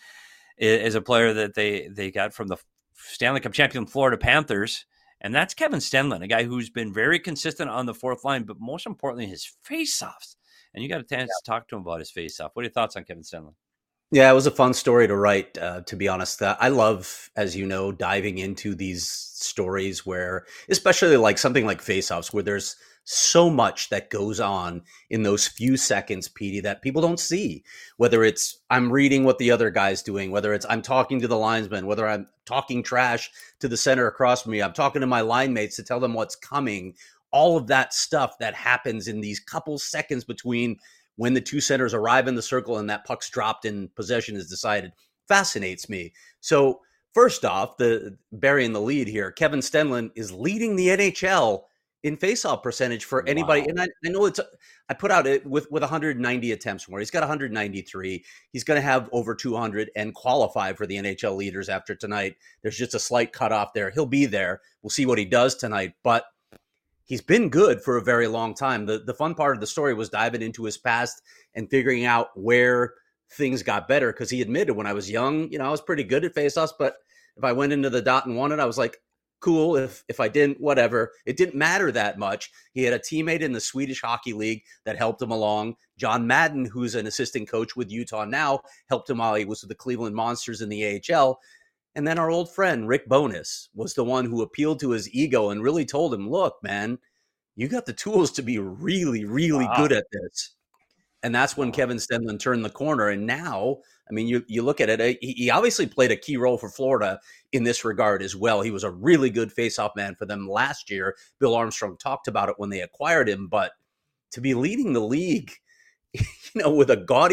Is a player that they got from the Stanley Cup champion Florida Panthers, and that's Kevin Stenlund, a guy who's been very consistent on the fourth line, but most importantly, his faceoffs. And you got a chance to talk to him about his faceoff. What are your thoughts on Kevin Stenlund? Yeah, it was a fun story to write, to be honest. I love, as you know, diving into these stories where, especially like something like faceoffs, where there's so much that goes on in those few seconds, Petey, that people don't see. Whether it's I'm reading what the other guy's doing, whether it's I'm talking to the linesman, whether I'm talking trash to the center across from me, I'm talking to my line mates to tell them what's coming. All of that stuff that happens in these couple seconds between when the two centers arrive in the circle and that puck's dropped and possession is decided fascinates me. So first off, burying the lead here, Kevin Stenlund is leading the NHL in faceoff percentage for anybody. Wow. And I know I put out it with 190 attempts more. He's got 193. He's going to have over 200 and qualify for the NHL leaders after tonight. There's just a slight cutoff there. He'll be there. We'll see what he does tonight, but he's been good for a very long time. The fun part of the story was diving into his past and figuring out where things got better, because he admitted when I was young, I was pretty good at faceoffs, but if I went into the dot and won it, I was like, cool. If I didn't, whatever. It didn't matter that much. He had a teammate in the Swedish Hockey League that helped him along. John Madden, who's an assistant coach with Utah now, helped him while he was with the Cleveland Monsters in the AHL. And then our old friend, Rick Bowness, was the one who appealed to his ego and really told him, look, man, you got the tools to be really, really good at this. And that's when Kevin Stenlund turned the corner. And now, I mean, you look at it, he obviously played a key role for Florida in this regard as well. He was a really good faceoff man for them last year. Bill Armstrong talked about it when they acquired him. But to be leading the league, with a gaudy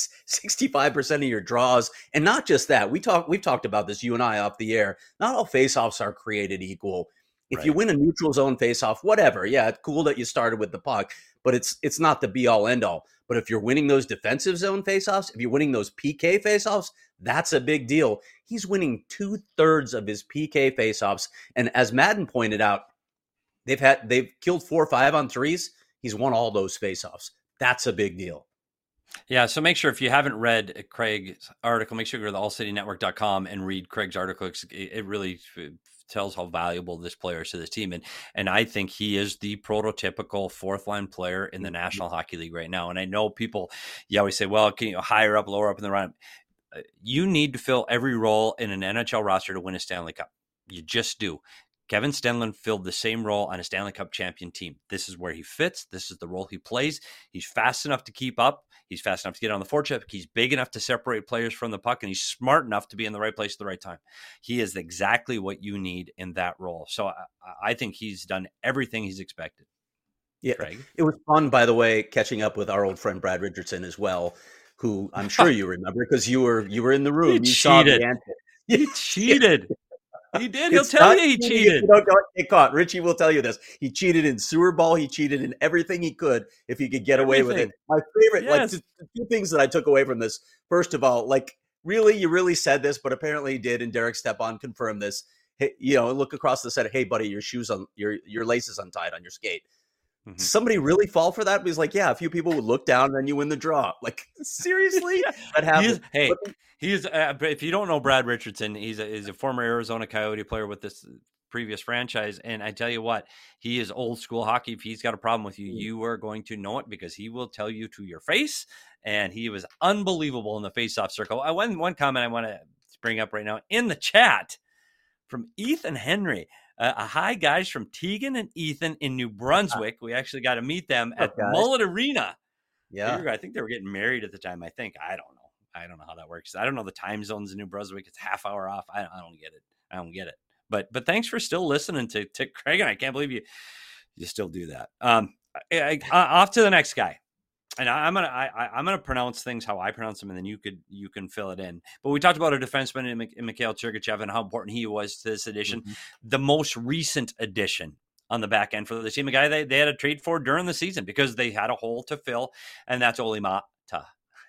65% of your draws. And not just that, we've talked about this, you and I, off the air. Not all faceoffs are created equal. If you win a neutral zone faceoff, whatever. Yeah, it's cool that you started with the puck, but it's not the be all end all. But if you're winning those defensive zone faceoffs, if you're winning those PK faceoffs, that's a big deal. He's winning 2/3 of his PK faceoffs. And as Madden pointed out, they've killed 4 or 5 on threes. He's won all those faceoffs. That's a big deal. Yeah, so make sure, if you haven't read Craig's article, make sure you go to the allcitynetwork.com and read Craig's article. It really tells how valuable this player is to this team. And I think he is the prototypical fourth line player in the National Hockey League right now. And I know people, you always say, well, can you higher up, lower up in the run? You need to fill every role in an NHL roster to win a Stanley Cup. You just do. Kevin Stenlund filled the same role on a Stanley Cup champion team. This is where he fits. This is the role he plays. He's fast enough to keep up. He's fast enough to get on the forecheck. He's big enough to separate players from the puck, and he's smart enough to be in the right place at the right time. He is exactly what you need in that role. So I think he's done everything he's expected. Yeah, Craig? It was fun, by the way, catching up with our old friend Brad Richardson as well, who I'm sure you remember because you were in the room. You saw the answer. He cheated. He did. He'll tell you he cheated. Don't get caught. Richie will tell you this. He cheated in sewer ball. He cheated in everything he could if he could get away with it. My favorite, the two things that I took away from this. First of all, you really said this, but apparently he did, and Derek Stepan confirmed this. Hey, look across the set. Hey, buddy, your shoes on your lace is untied on your skate. Mm-hmm. Somebody really fall for that? He's like, yeah, a few people would look down and then you win the draw. Like, seriously? That happens. He's if you don't know Brad Richardson, he's a former Arizona Coyote player with this previous franchise. And I tell you what, he is old school hockey. If he's got a problem with you, you are going to know it because he will tell you to your face. And he was unbelievable in the face-off circle. One comment I want to bring up right now in the chat from Ethan Henry. Hi, guys, from Tegan and Ethan in New Brunswick. We actually got to meet them at Mullet Arena. Yeah. I think they were getting married at the time. I don't know. I don't know how that works. I don't know the time zones in New Brunswick. It's half hour off. I don't get it. But thanks for still listening to Craig, and I can't believe you still do that. Off to the next guy. And I'm gonna pronounce things how I pronounce them, and then you can fill it in. But we talked about a defenseman in Mikhail Sergachev and how important he was to this edition. Mm-hmm. The most recent addition on the back end for the team, a guy they had to trade for during the season because they had a hole to fill, and that's Olli Maatta.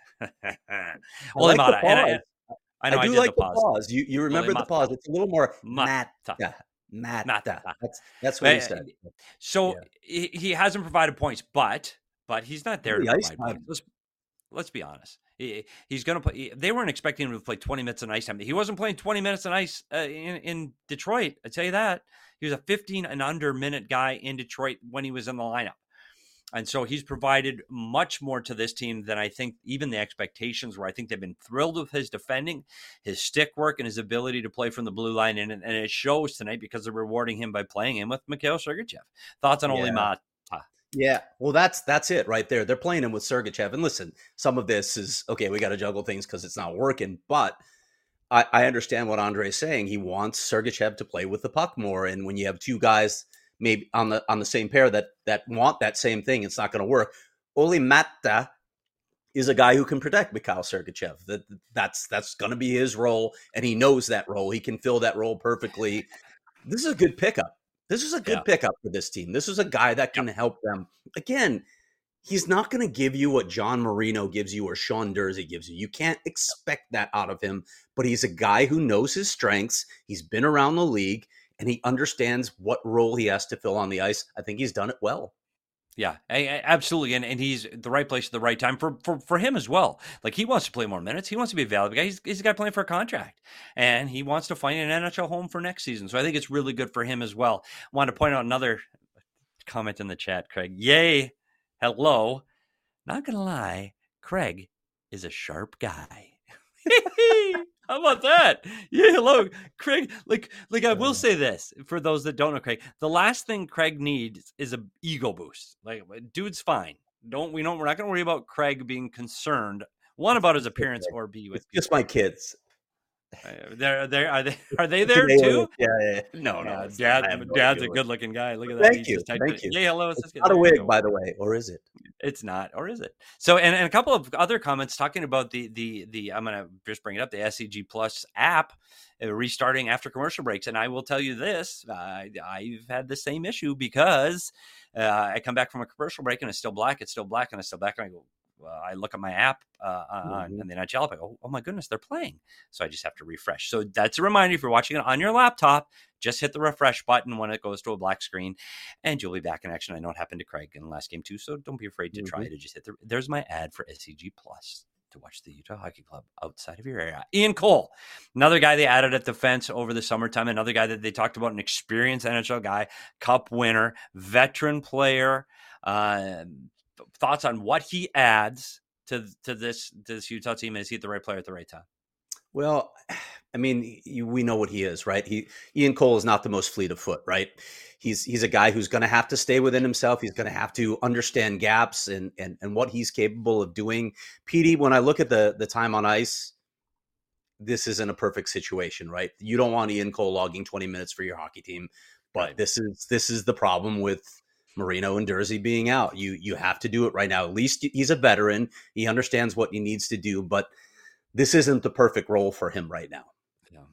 Olli Maatta. I know I do like the pause. You remember the pause. It's a little more Maatta. Maatta. That's what he said. So he hasn't provided points, but he's not there to provide points. Let's be honest. He's going to play. They weren't expecting him to play 20 minutes on ice time. He wasn't playing 20 minutes on ice in Detroit. I tell you that. He was a 15 and under minute guy in Detroit when he was in the lineup. And so he's provided much more to this team than I think even the expectations were. I think they've been thrilled with his defending, his stick work, and his ability to play from the blue line. And it shows tonight because they're rewarding him by playing him with Mikhail Sergachev. Thoughts on Olli Maatta? Yeah, well, that's it right there. They're playing him with Sergachev. And listen, some of this is, okay, we got to juggle things because it's not working. But I understand what Andre is saying. He wants Sergachev to play with the puck more. And when you have two guys maybe on the same pair that want that same thing, it's not going to work. Olli Maatta is a guy who can protect Mikhail Sergachev. That's going to be his role, and he knows that role. He can fill that role perfectly. This is a good pickup. This is a good pickup for this team. This is a guy that can help them. Again, he's not going to give you what John Marino gives you or Sean Durzi gives you. You can't expect that out of him, but he's a guy who knows his strengths. He's been around the league, and he understands what role he has to fill on the ice. I think he's done it well. Yeah, absolutely. And he's the right place at the right time for him as well. Like, he wants to play more minutes. He wants to be a valuable guy. He's a guy playing for a contract, and he wants to find an NHL home for next season. So I think it's really good for him as well. I wanted to point out another comment in the chat, Craig. Yay. Hello. Not going to lie, Craig is a sharp guy. How about that? Yeah, hello, Craig. Like I will say this for those that don't know Craig. The last thing Craig needs is an ego boost. Like, dude's fine. We're not going to worry about Craig being concerned, one, about his appearance, or B, with just my kids. Are they there too? Yeah. No. Dad's a good-looking guy. Look at that. Thank you. Yeah, hello. It's not a wig, by the way, or is it? It's not, or is it? So, and a couple of other comments talking about the I'm going to just bring it up, the SCG Plus app restarting after commercial breaks. And I will tell you this, I've had the same issue because I come back from a commercial break and it's still black, and I go, I look at my app on the NHL app. I go, oh my goodness, they're playing. So I just have to refresh. So that's a reminder. If you're watching it on your laptop, just hit the refresh button when it goes to a black screen, and you'll be back in action. I know it happened to Craig in the last game too, so don't be afraid to try to just hit there's my ad for SCG Plus to watch the Utah Hockey Club outside of your area. Ian Cole, another guy they added at defense over the summertime, another guy that they talked about, an experienced NHL guy, cup winner, veteran player. Thoughts on what he adds to this Utah team? Is he the right player at the right time? Well, I mean, we know what he is, right? Ian Cole is not the most fleet of foot, right? He's a guy who's going to have to stay within himself. He's going to have to understand gaps and what he's capable of doing. Petey, when I look at the time on ice, this isn't a perfect situation, right? You don't want Ian Cole logging 20 minutes for your hockey team, but right. This is the problem with Marino and Durzi being out. You have to do it right now. At least he's a veteran. He understands what he needs to do, but this isn't the perfect role for him right now. Yeah.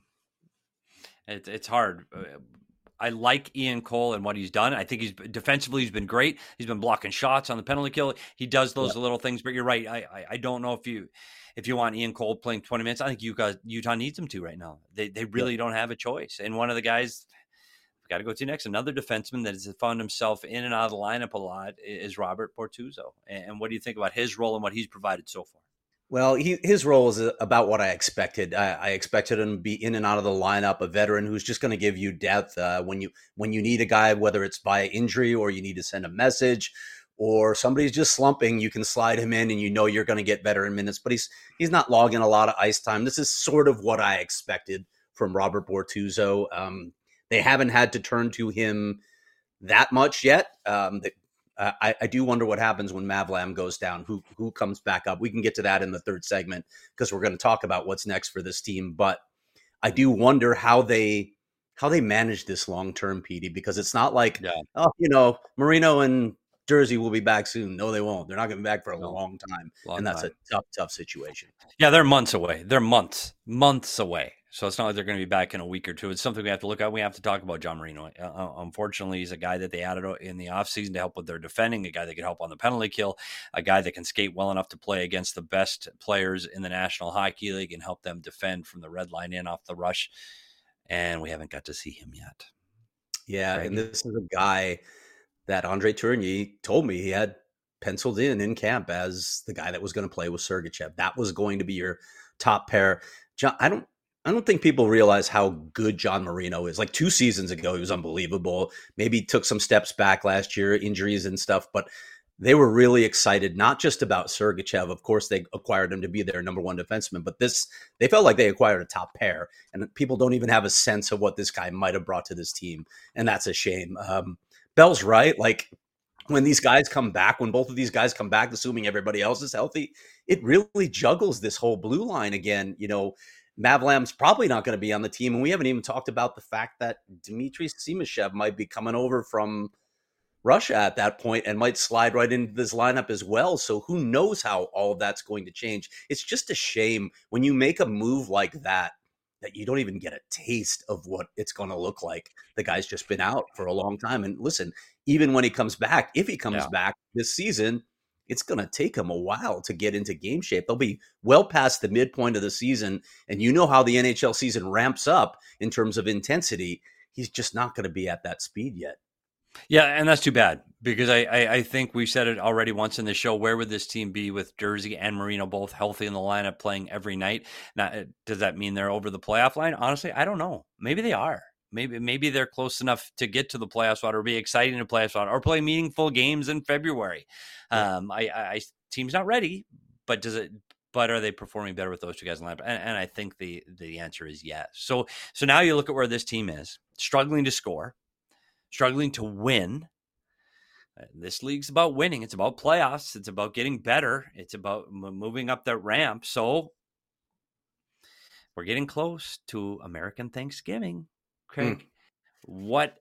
It's hard. I like Ian Cole and what he's done. I think defensively he's been great. He's been blocking shots on the penalty kill. He does those little things, but you're right. I don't know if you want Ian Cole playing 20 minutes. I think Utah needs him to right now. They really don't have a choice. And one of the guys got to go to next, another defenseman that has found himself in and out of the lineup a lot, is Robert Bortuzzo. And what do you think about his role and what he's provided so far? Well, his role is about what I expected. I expected him to be in and out of the lineup, a veteran who's just going to give you depth when you need a guy, whether it's by injury or you need to send a message, or somebody's just slumping. You can slide him in, and you know you're going to get veteran minutes. But he's not logging a lot of ice time. This is sort of what I expected from Robert Bortuzzo. They haven't had to turn to him that much yet. I do wonder what happens when Mavlam goes down, who comes back up. We can get to that in the third segment because we're going to talk about what's next for this team. But I do wonder how they manage this long-term, Petey, because it's not like, Marino and Jersey will be back soon. No, they won't. They're not going to be back for a long time. That's a tough situation. Yeah, they're months away. They're months away. So it's not like they're going to be back in a week or two. It's something we have to look at. We have to talk about John Marino. Unfortunately, he's a guy that they added in the offseason to help with their defending, a guy that can help on the penalty kill, a guy that can skate well enough to play against the best players in the National Hockey League and help them defend from the red line in off the rush. And we haven't got to see him yet. Yeah, and this is a guy that Andre Tourigny told me he had penciled in camp as the guy that was going to play with Sergachev. That was going to be your top pair. John, I don't think people realize how good John Marino is. Like 2 seasons ago, he was unbelievable. Maybe took some steps back last year, injuries and stuff, but they were really excited, not just about Sergachev. Of course, they acquired him to be their number one defenseman, but they felt like they acquired a top pair, and people don't even have a sense of what this guy might have brought to this team, and that's a shame. Bell's right. Like, when these guys come back, when both of these guys come back, assuming everybody else is healthy, it really juggles this whole blue line again. Mavlam's probably not going to be on the team, and we haven't even talked about the fact that Dmitry Simashev might be coming over from Russia at that point and might slide right into this lineup as well. So who knows how all of that's going to change. It's just a shame when you make a move like that you don't even get a taste of what it's going to look like. The guy's just been out for a long time. And listen, even when he comes back, if he comes back this season, it's going to take him a while to get into game shape. They'll be well past the midpoint of the season. And you know how the NHL season ramps up in terms of intensity. He's just not going to be at that speed yet. Yeah, and that's too bad because I think we've said it already once in the show. Where would this team be with Jersey and Marino both healthy in the lineup playing every night? Now, does that mean they're over the playoff line? Honestly, I don't know. Maybe they are. Maybe they're close enough to get to the playoff spot or be exciting to playoff spot or play meaningful games in February. Team's not ready, but are they performing better with those two guys in the lineup? And I think the answer is yes. So now you look at where this team is, struggling to score, struggling to win. This league's about winning. It's about playoffs. It's about getting better. It's about moving up the ramp. So we're getting close to American Thanksgiving. Craig, what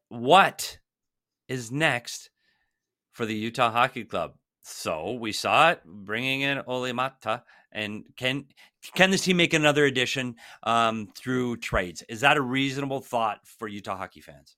is next for the Utah Hockey Club? So we saw it bringing in Olli Maatta, and can this team make another addition through trades? Is that a reasonable thought for Utah hockey fans?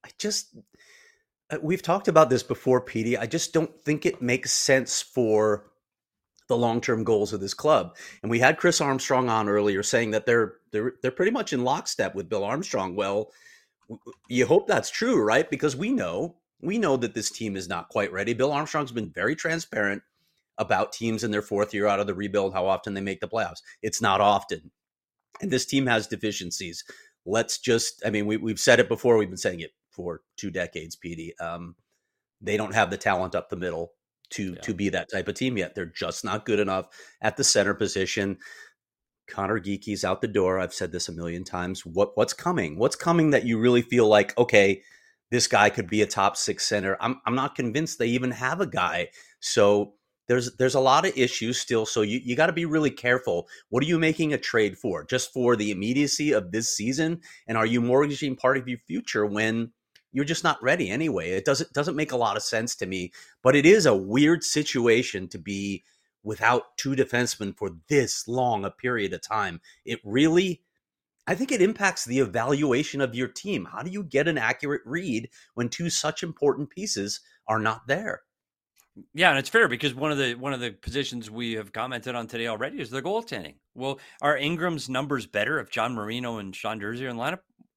We've talked about this before, Petey. I just don't think it makes sense for the long-term goals of this club. And we had Chris Armstrong on earlier saying that they're pretty much in lockstep with Bill Armstrong. Well, you hope that's true, right? Because we know that this team is not quite ready. Bill Armstrong's been very transparent about teams in their fourth year out of the rebuild, how often they make the playoffs. It's not often. And this team has deficiencies. We've said it before. We've been saying it for 2 decades, Petey. They don't have the talent up the middle to be that type of team yet. They're just not good enough at the center position. Connor Geeky's out the door. I've said this a million times. What's coming? What's coming that you really feel like, okay, this guy could be a top 6 center? I'm not convinced they even have a guy. So there's a lot of issues still. So you got to be really careful. What are you making a trade for? Just for the immediacy of this season? And are you mortgaging part of your future when you're just not ready anyway? It doesn't make a lot of sense to me, but it is a weird situation to be without 2 defensemen for this long a period of time. I think it impacts the evaluation of your team. How do you get an accurate read when 2 such important pieces are not there? Yeah, and it's fair because one of the positions we have commented on today already is the goaltending. Well, are Ingram's numbers better if John Marino and Sean Durzi are in the lineup?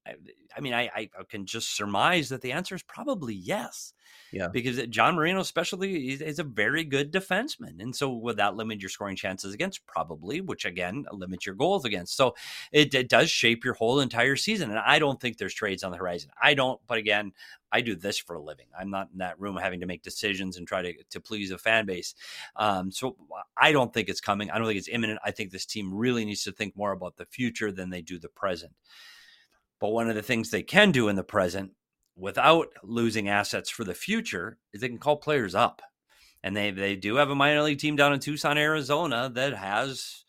I can just surmise that the answer is probably yes. Yeah. Because John Marino's specialty is a very good defenseman. And so would that limit your scoring chances against? Probably, which again, limits your goals against. So it does shape your whole entire season. And I don't think there's trades on the horizon. But again, I do this for a living. I'm not in that room having to make decisions and try to please a fan base. So I don't think it's coming. I don't think it's imminent. I think this team really needs to think more about the future than they do the present. But one of the things they can do in the present without losing assets for the future is they can call players up. And they do have a minor league team down in Tucson, Arizona that has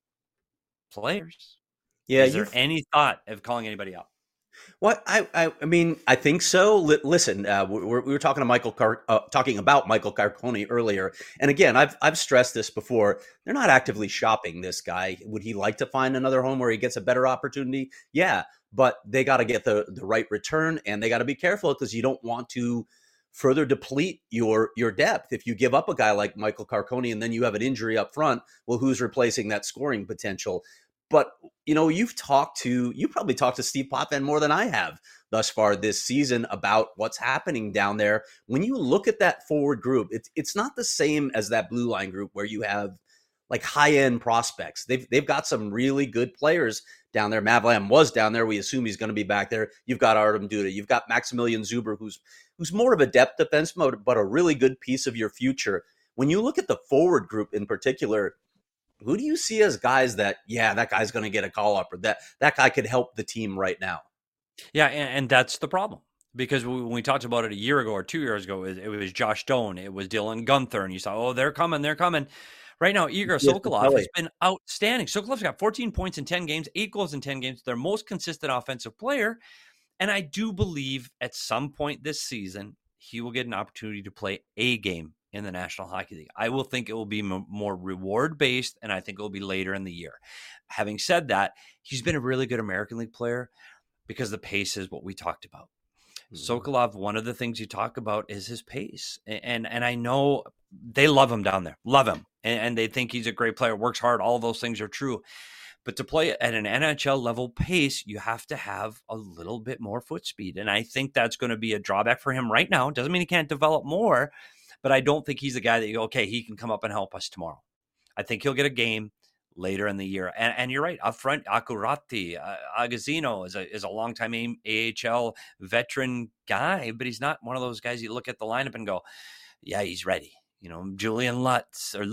players. Yeah. Is there any thought of calling anybody up? Well, I mean, I think so. Listen, we were talking to talking about Michael Carcone earlier, and again, I've stressed this before. They're not actively shopping this guy. Would he like to find another home where he gets a better opportunity? Yeah, but they got to get the right return, and they got to be careful because you don't want to further deplete your depth. If you give up a guy like Michael Carcone and then you have an injury up front, well, who's replacing that scoring potential? But, you've probably talked to Steve Potvin more than I have thus far this season about what's happening down there. When you look at that forward group, it's not the same as that blue line group where you have like high-end prospects. They've got some really good players down there. Mavlam was down there. We assume he's going to be back there. You've got Artem Duda. You've got Maximilian Zuber, who's more of a depth defenseman, but a really good piece of your future. When you look at the forward group in particular, who do you see as guys that guy's going to get a call up, or that guy could help the team right now? Yeah, and that's the problem. Because when we talked about it a year ago or 2 years ago, it was Josh Doan, it was Dylan Gunther, and you saw, they're coming. Right now, Igor Sokolov has been outstanding. Sokolov's got 14 points in 10 games, 8 goals in 10 games. Their most consistent offensive player. And I do believe at some point this season, he will get an opportunity to play a game in the National Hockey League. I will think it will be more reward-based, and I think it will be later in the year. Having said that, he's been a really good American League player because the pace is what we talked about. Sokolov, one of the things you talk about is his pace. And I know they love him down there, love him. And they think he's a great player, works hard. All those things are true. But to play at an NHL level pace, you have to have a little bit more foot speed. And I think that's going to be a drawback for him right now. Doesn't mean he can't develop more, but I don't think he's a guy that you go, okay, he can come up and help us tomorrow. I think he'll get a game later in the year. And you're right, up front, Akurati, Agazino is a longtime AHL veteran guy, but he's not one of those guys you look at the lineup and go, yeah, he's ready. Julian Lutz and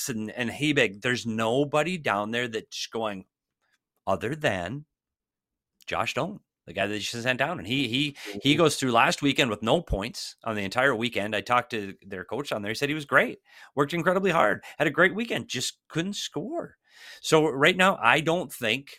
Hebig. There's nobody down there that's going other than Josh Doan, the guy that you sent down. And he goes through last weekend with no points on the entire weekend. I talked to their coach on there. He said he was great, worked incredibly hard, had a great weekend, just couldn't score. So right now, I don't think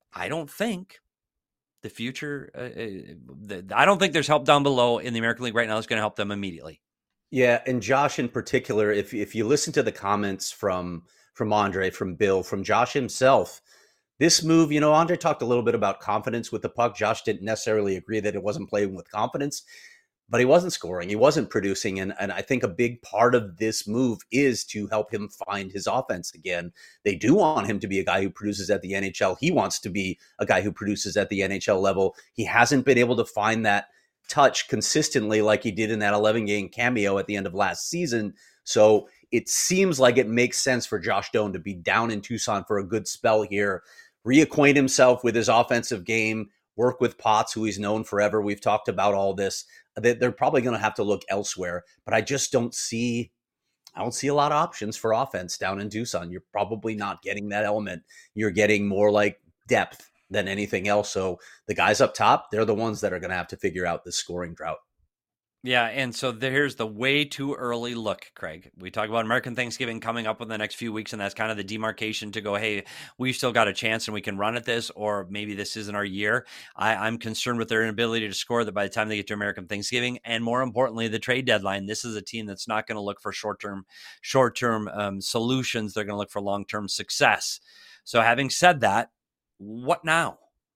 the future, I don't think there's help down below in the American League right now that's going to help them immediately. Yeah, and Josh in particular, if you listen to the comments from Andre, from Bill, from Josh himself, this move, Andre talked a little bit about confidence with the puck. Josh didn't necessarily agree that it wasn't playing with confidence, but he wasn't scoring. He wasn't producing. And I think a big part of this move is to help him find his offense again. They do want him to be a guy who produces at the NHL. He wants to be a guy who produces at the NHL level. He hasn't been able to find that touch consistently like he did in that 11-game cameo at the end of last season. So it seems like it makes sense for Josh Doan to be down in Tucson for a good spell here, reacquaint himself with his offensive game, work with Potts, who he's known forever. We've talked about all this. They're probably going to have to look elsewhere, but I just don't see a lot of options for offense down in Tucson. You're probably not getting that element. You're getting more like depth than anything else. So the guys up top, they're the ones that are going to have to figure out this scoring drought. Yeah, and so here's the way too early look, Craig. We talk about American Thanksgiving coming up in the next few weeks, and that's kind of the demarcation to go, hey, we've still got a chance and we can run at this, or maybe this isn't our year. I'm concerned with their inability to score that by the time they get to American Thanksgiving, and more importantly, the trade deadline. This is a team that's not going to look for short-term solutions. They're going to look for long-term success. So having said that, what now?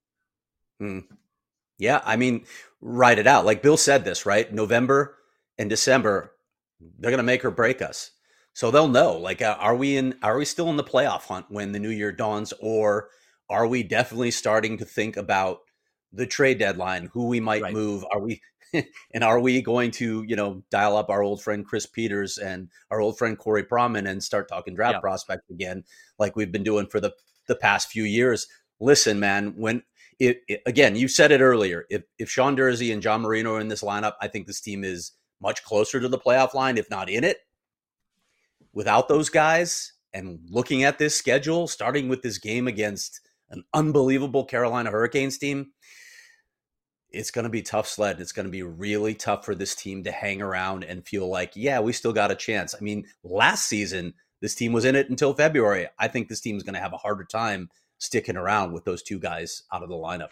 Yeah, I mean, write it out. Like Bill said this, right? November and December, they're going to make or break us. So they'll know, like, are we still in the playoff hunt when the new year dawns, or are we definitely starting to think about the trade deadline, who we might move. Are we going to, dial up our old friend Chris Peters and our old friend Corey Proman and start talking draft prospects again, like we've been doing for the past few years? Listen, man, again, you said it earlier. If Sean Durzi and John Marino are in this lineup, I think this team is much closer to the playoff line, if not in it. Without those guys, and looking at this schedule, starting with this game against an unbelievable Carolina Hurricanes team, it's going to be tough sled. It's going to be really tough for this team to hang around and feel like, yeah, we still got a chance. I mean, last season, this team was in it until February. I think this team is going to have a harder time sticking around with those two guys out of the lineup.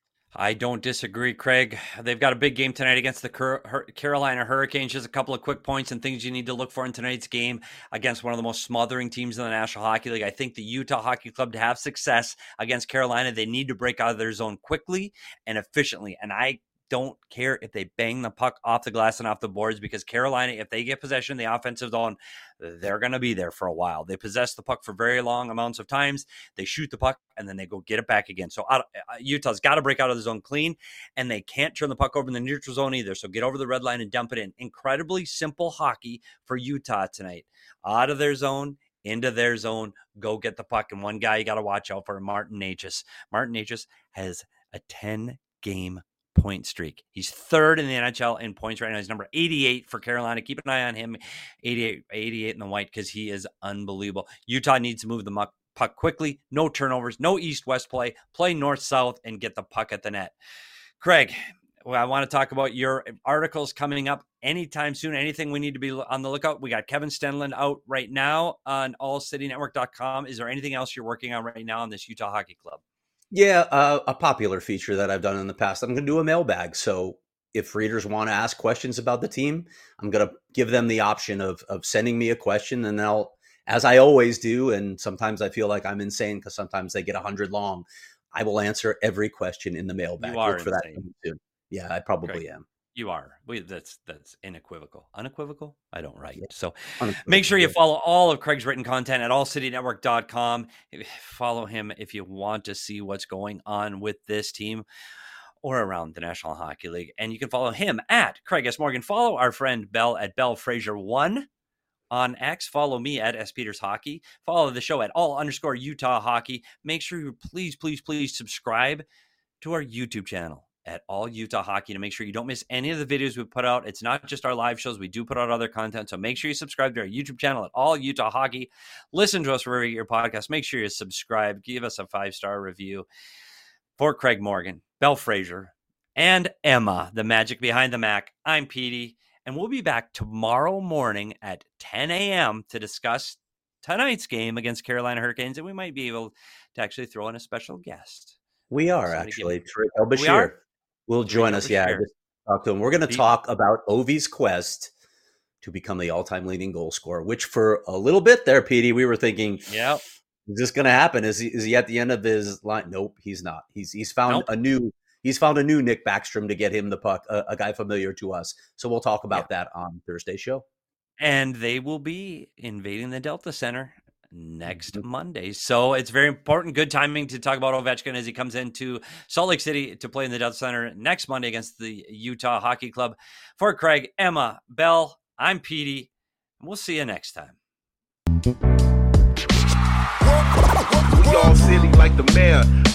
I don't disagree, Craig. They've got a big game tonight against the Carolina Hurricanes. Just a couple of quick points and things you need to look for in tonight's game against one of the most smothering teams in the National Hockey League. I think the Utah Hockey Club, to have success against Carolina, they need to break out of their zone quickly and efficiently. And I don't care if they bang the puck off the glass and off the boards, because Carolina, if they get possession in the offensive zone, they're going to be there for a while. They possess the puck for very long amounts of times. They shoot the puck and then they go get it back again. So Utah's got to break out of the zone clean, and they can't turn the puck over in the neutral zone either. So get over the red line and dump it in. Incredibly simple hockey for Utah tonight. Out of their zone, into their zone, go get the puck. And one guy you got to watch out for, Martin Necas. Martin Necas has a 10-game point streak. He's third in the NHL in points right now. He's number 88 for Carolina. Keep an eye on him. 88 in the white, because he is unbelievable. Utah needs to move the puck quickly. No turnovers, no east-west play. Play north-south and get the puck at the net. Craig, I want to talk about your articles coming up anytime soon. Anything we need to be on the lookout? We got Kevin Stenlund out right now on allcitynetwork.com. Is there anything else you're working on right now on this Utah Hockey Club? Yeah, a popular feature that I've done in the past. I'm going to do a mailbag. So if readers want to ask questions about the team, I'm going to give them the option of sending me a question, and I'll, as I always do, and sometimes I feel like I'm insane because sometimes they get 100 long, I will answer every question in the mailbag. You are Look for that soon. Yeah, I probably am. You are. That's unequivocal. Unequivocal? I don't write. Yeah. So make sure you follow all of Craig's written content at allcitynetwork.com. Follow him if you want to see what's going on with this team or around the National Hockey League. And you can follow him at Craig S. Morgan. Follow our friend Bell at Bell Fraser1 on X. Follow me at S. Peters Hockey. Follow the show at all_Utah Hockey. Make sure you please subscribe to our YouTube channel at All Utah Hockey to make sure you don't miss any of the videos we put out. It's not just our live shows. We do put out other content. So make sure you subscribe to our YouTube channel at All Utah Hockey. Listen to us wherever you get your podcast. Make sure you subscribe. Give us a 5-star review. For Craig Morgan, Bell Fraser, and Emma, the magic behind the Mac, I'm Petey. And we'll be back tomorrow morning at 10 a.m. to discuss tonight's game against Carolina Hurricanes. And we might be able to actually throw in a special guest. We are actually. Bashir will join us. Yeah, I just talked to him. We're going to talk about Ovi's quest to become the all-time leading goal scorer, which for a little bit there, Petey, we were thinking, is this going to happen? Is he at the end of his line? Nope, he's not. He's found a new Nick Backstrom to get him the puck, a guy familiar to us. So we'll talk about that on Thursday's show. And they will be invading the Delta Center next Monday. So it's very important. Good timing to talk about Ovechkin as he comes into Salt Lake City to play in the Delta Center next Monday against the Utah Hockey Club. For Craig, Emma, Bell, I'm Petey. We'll see you next time. We all silly like the mayor.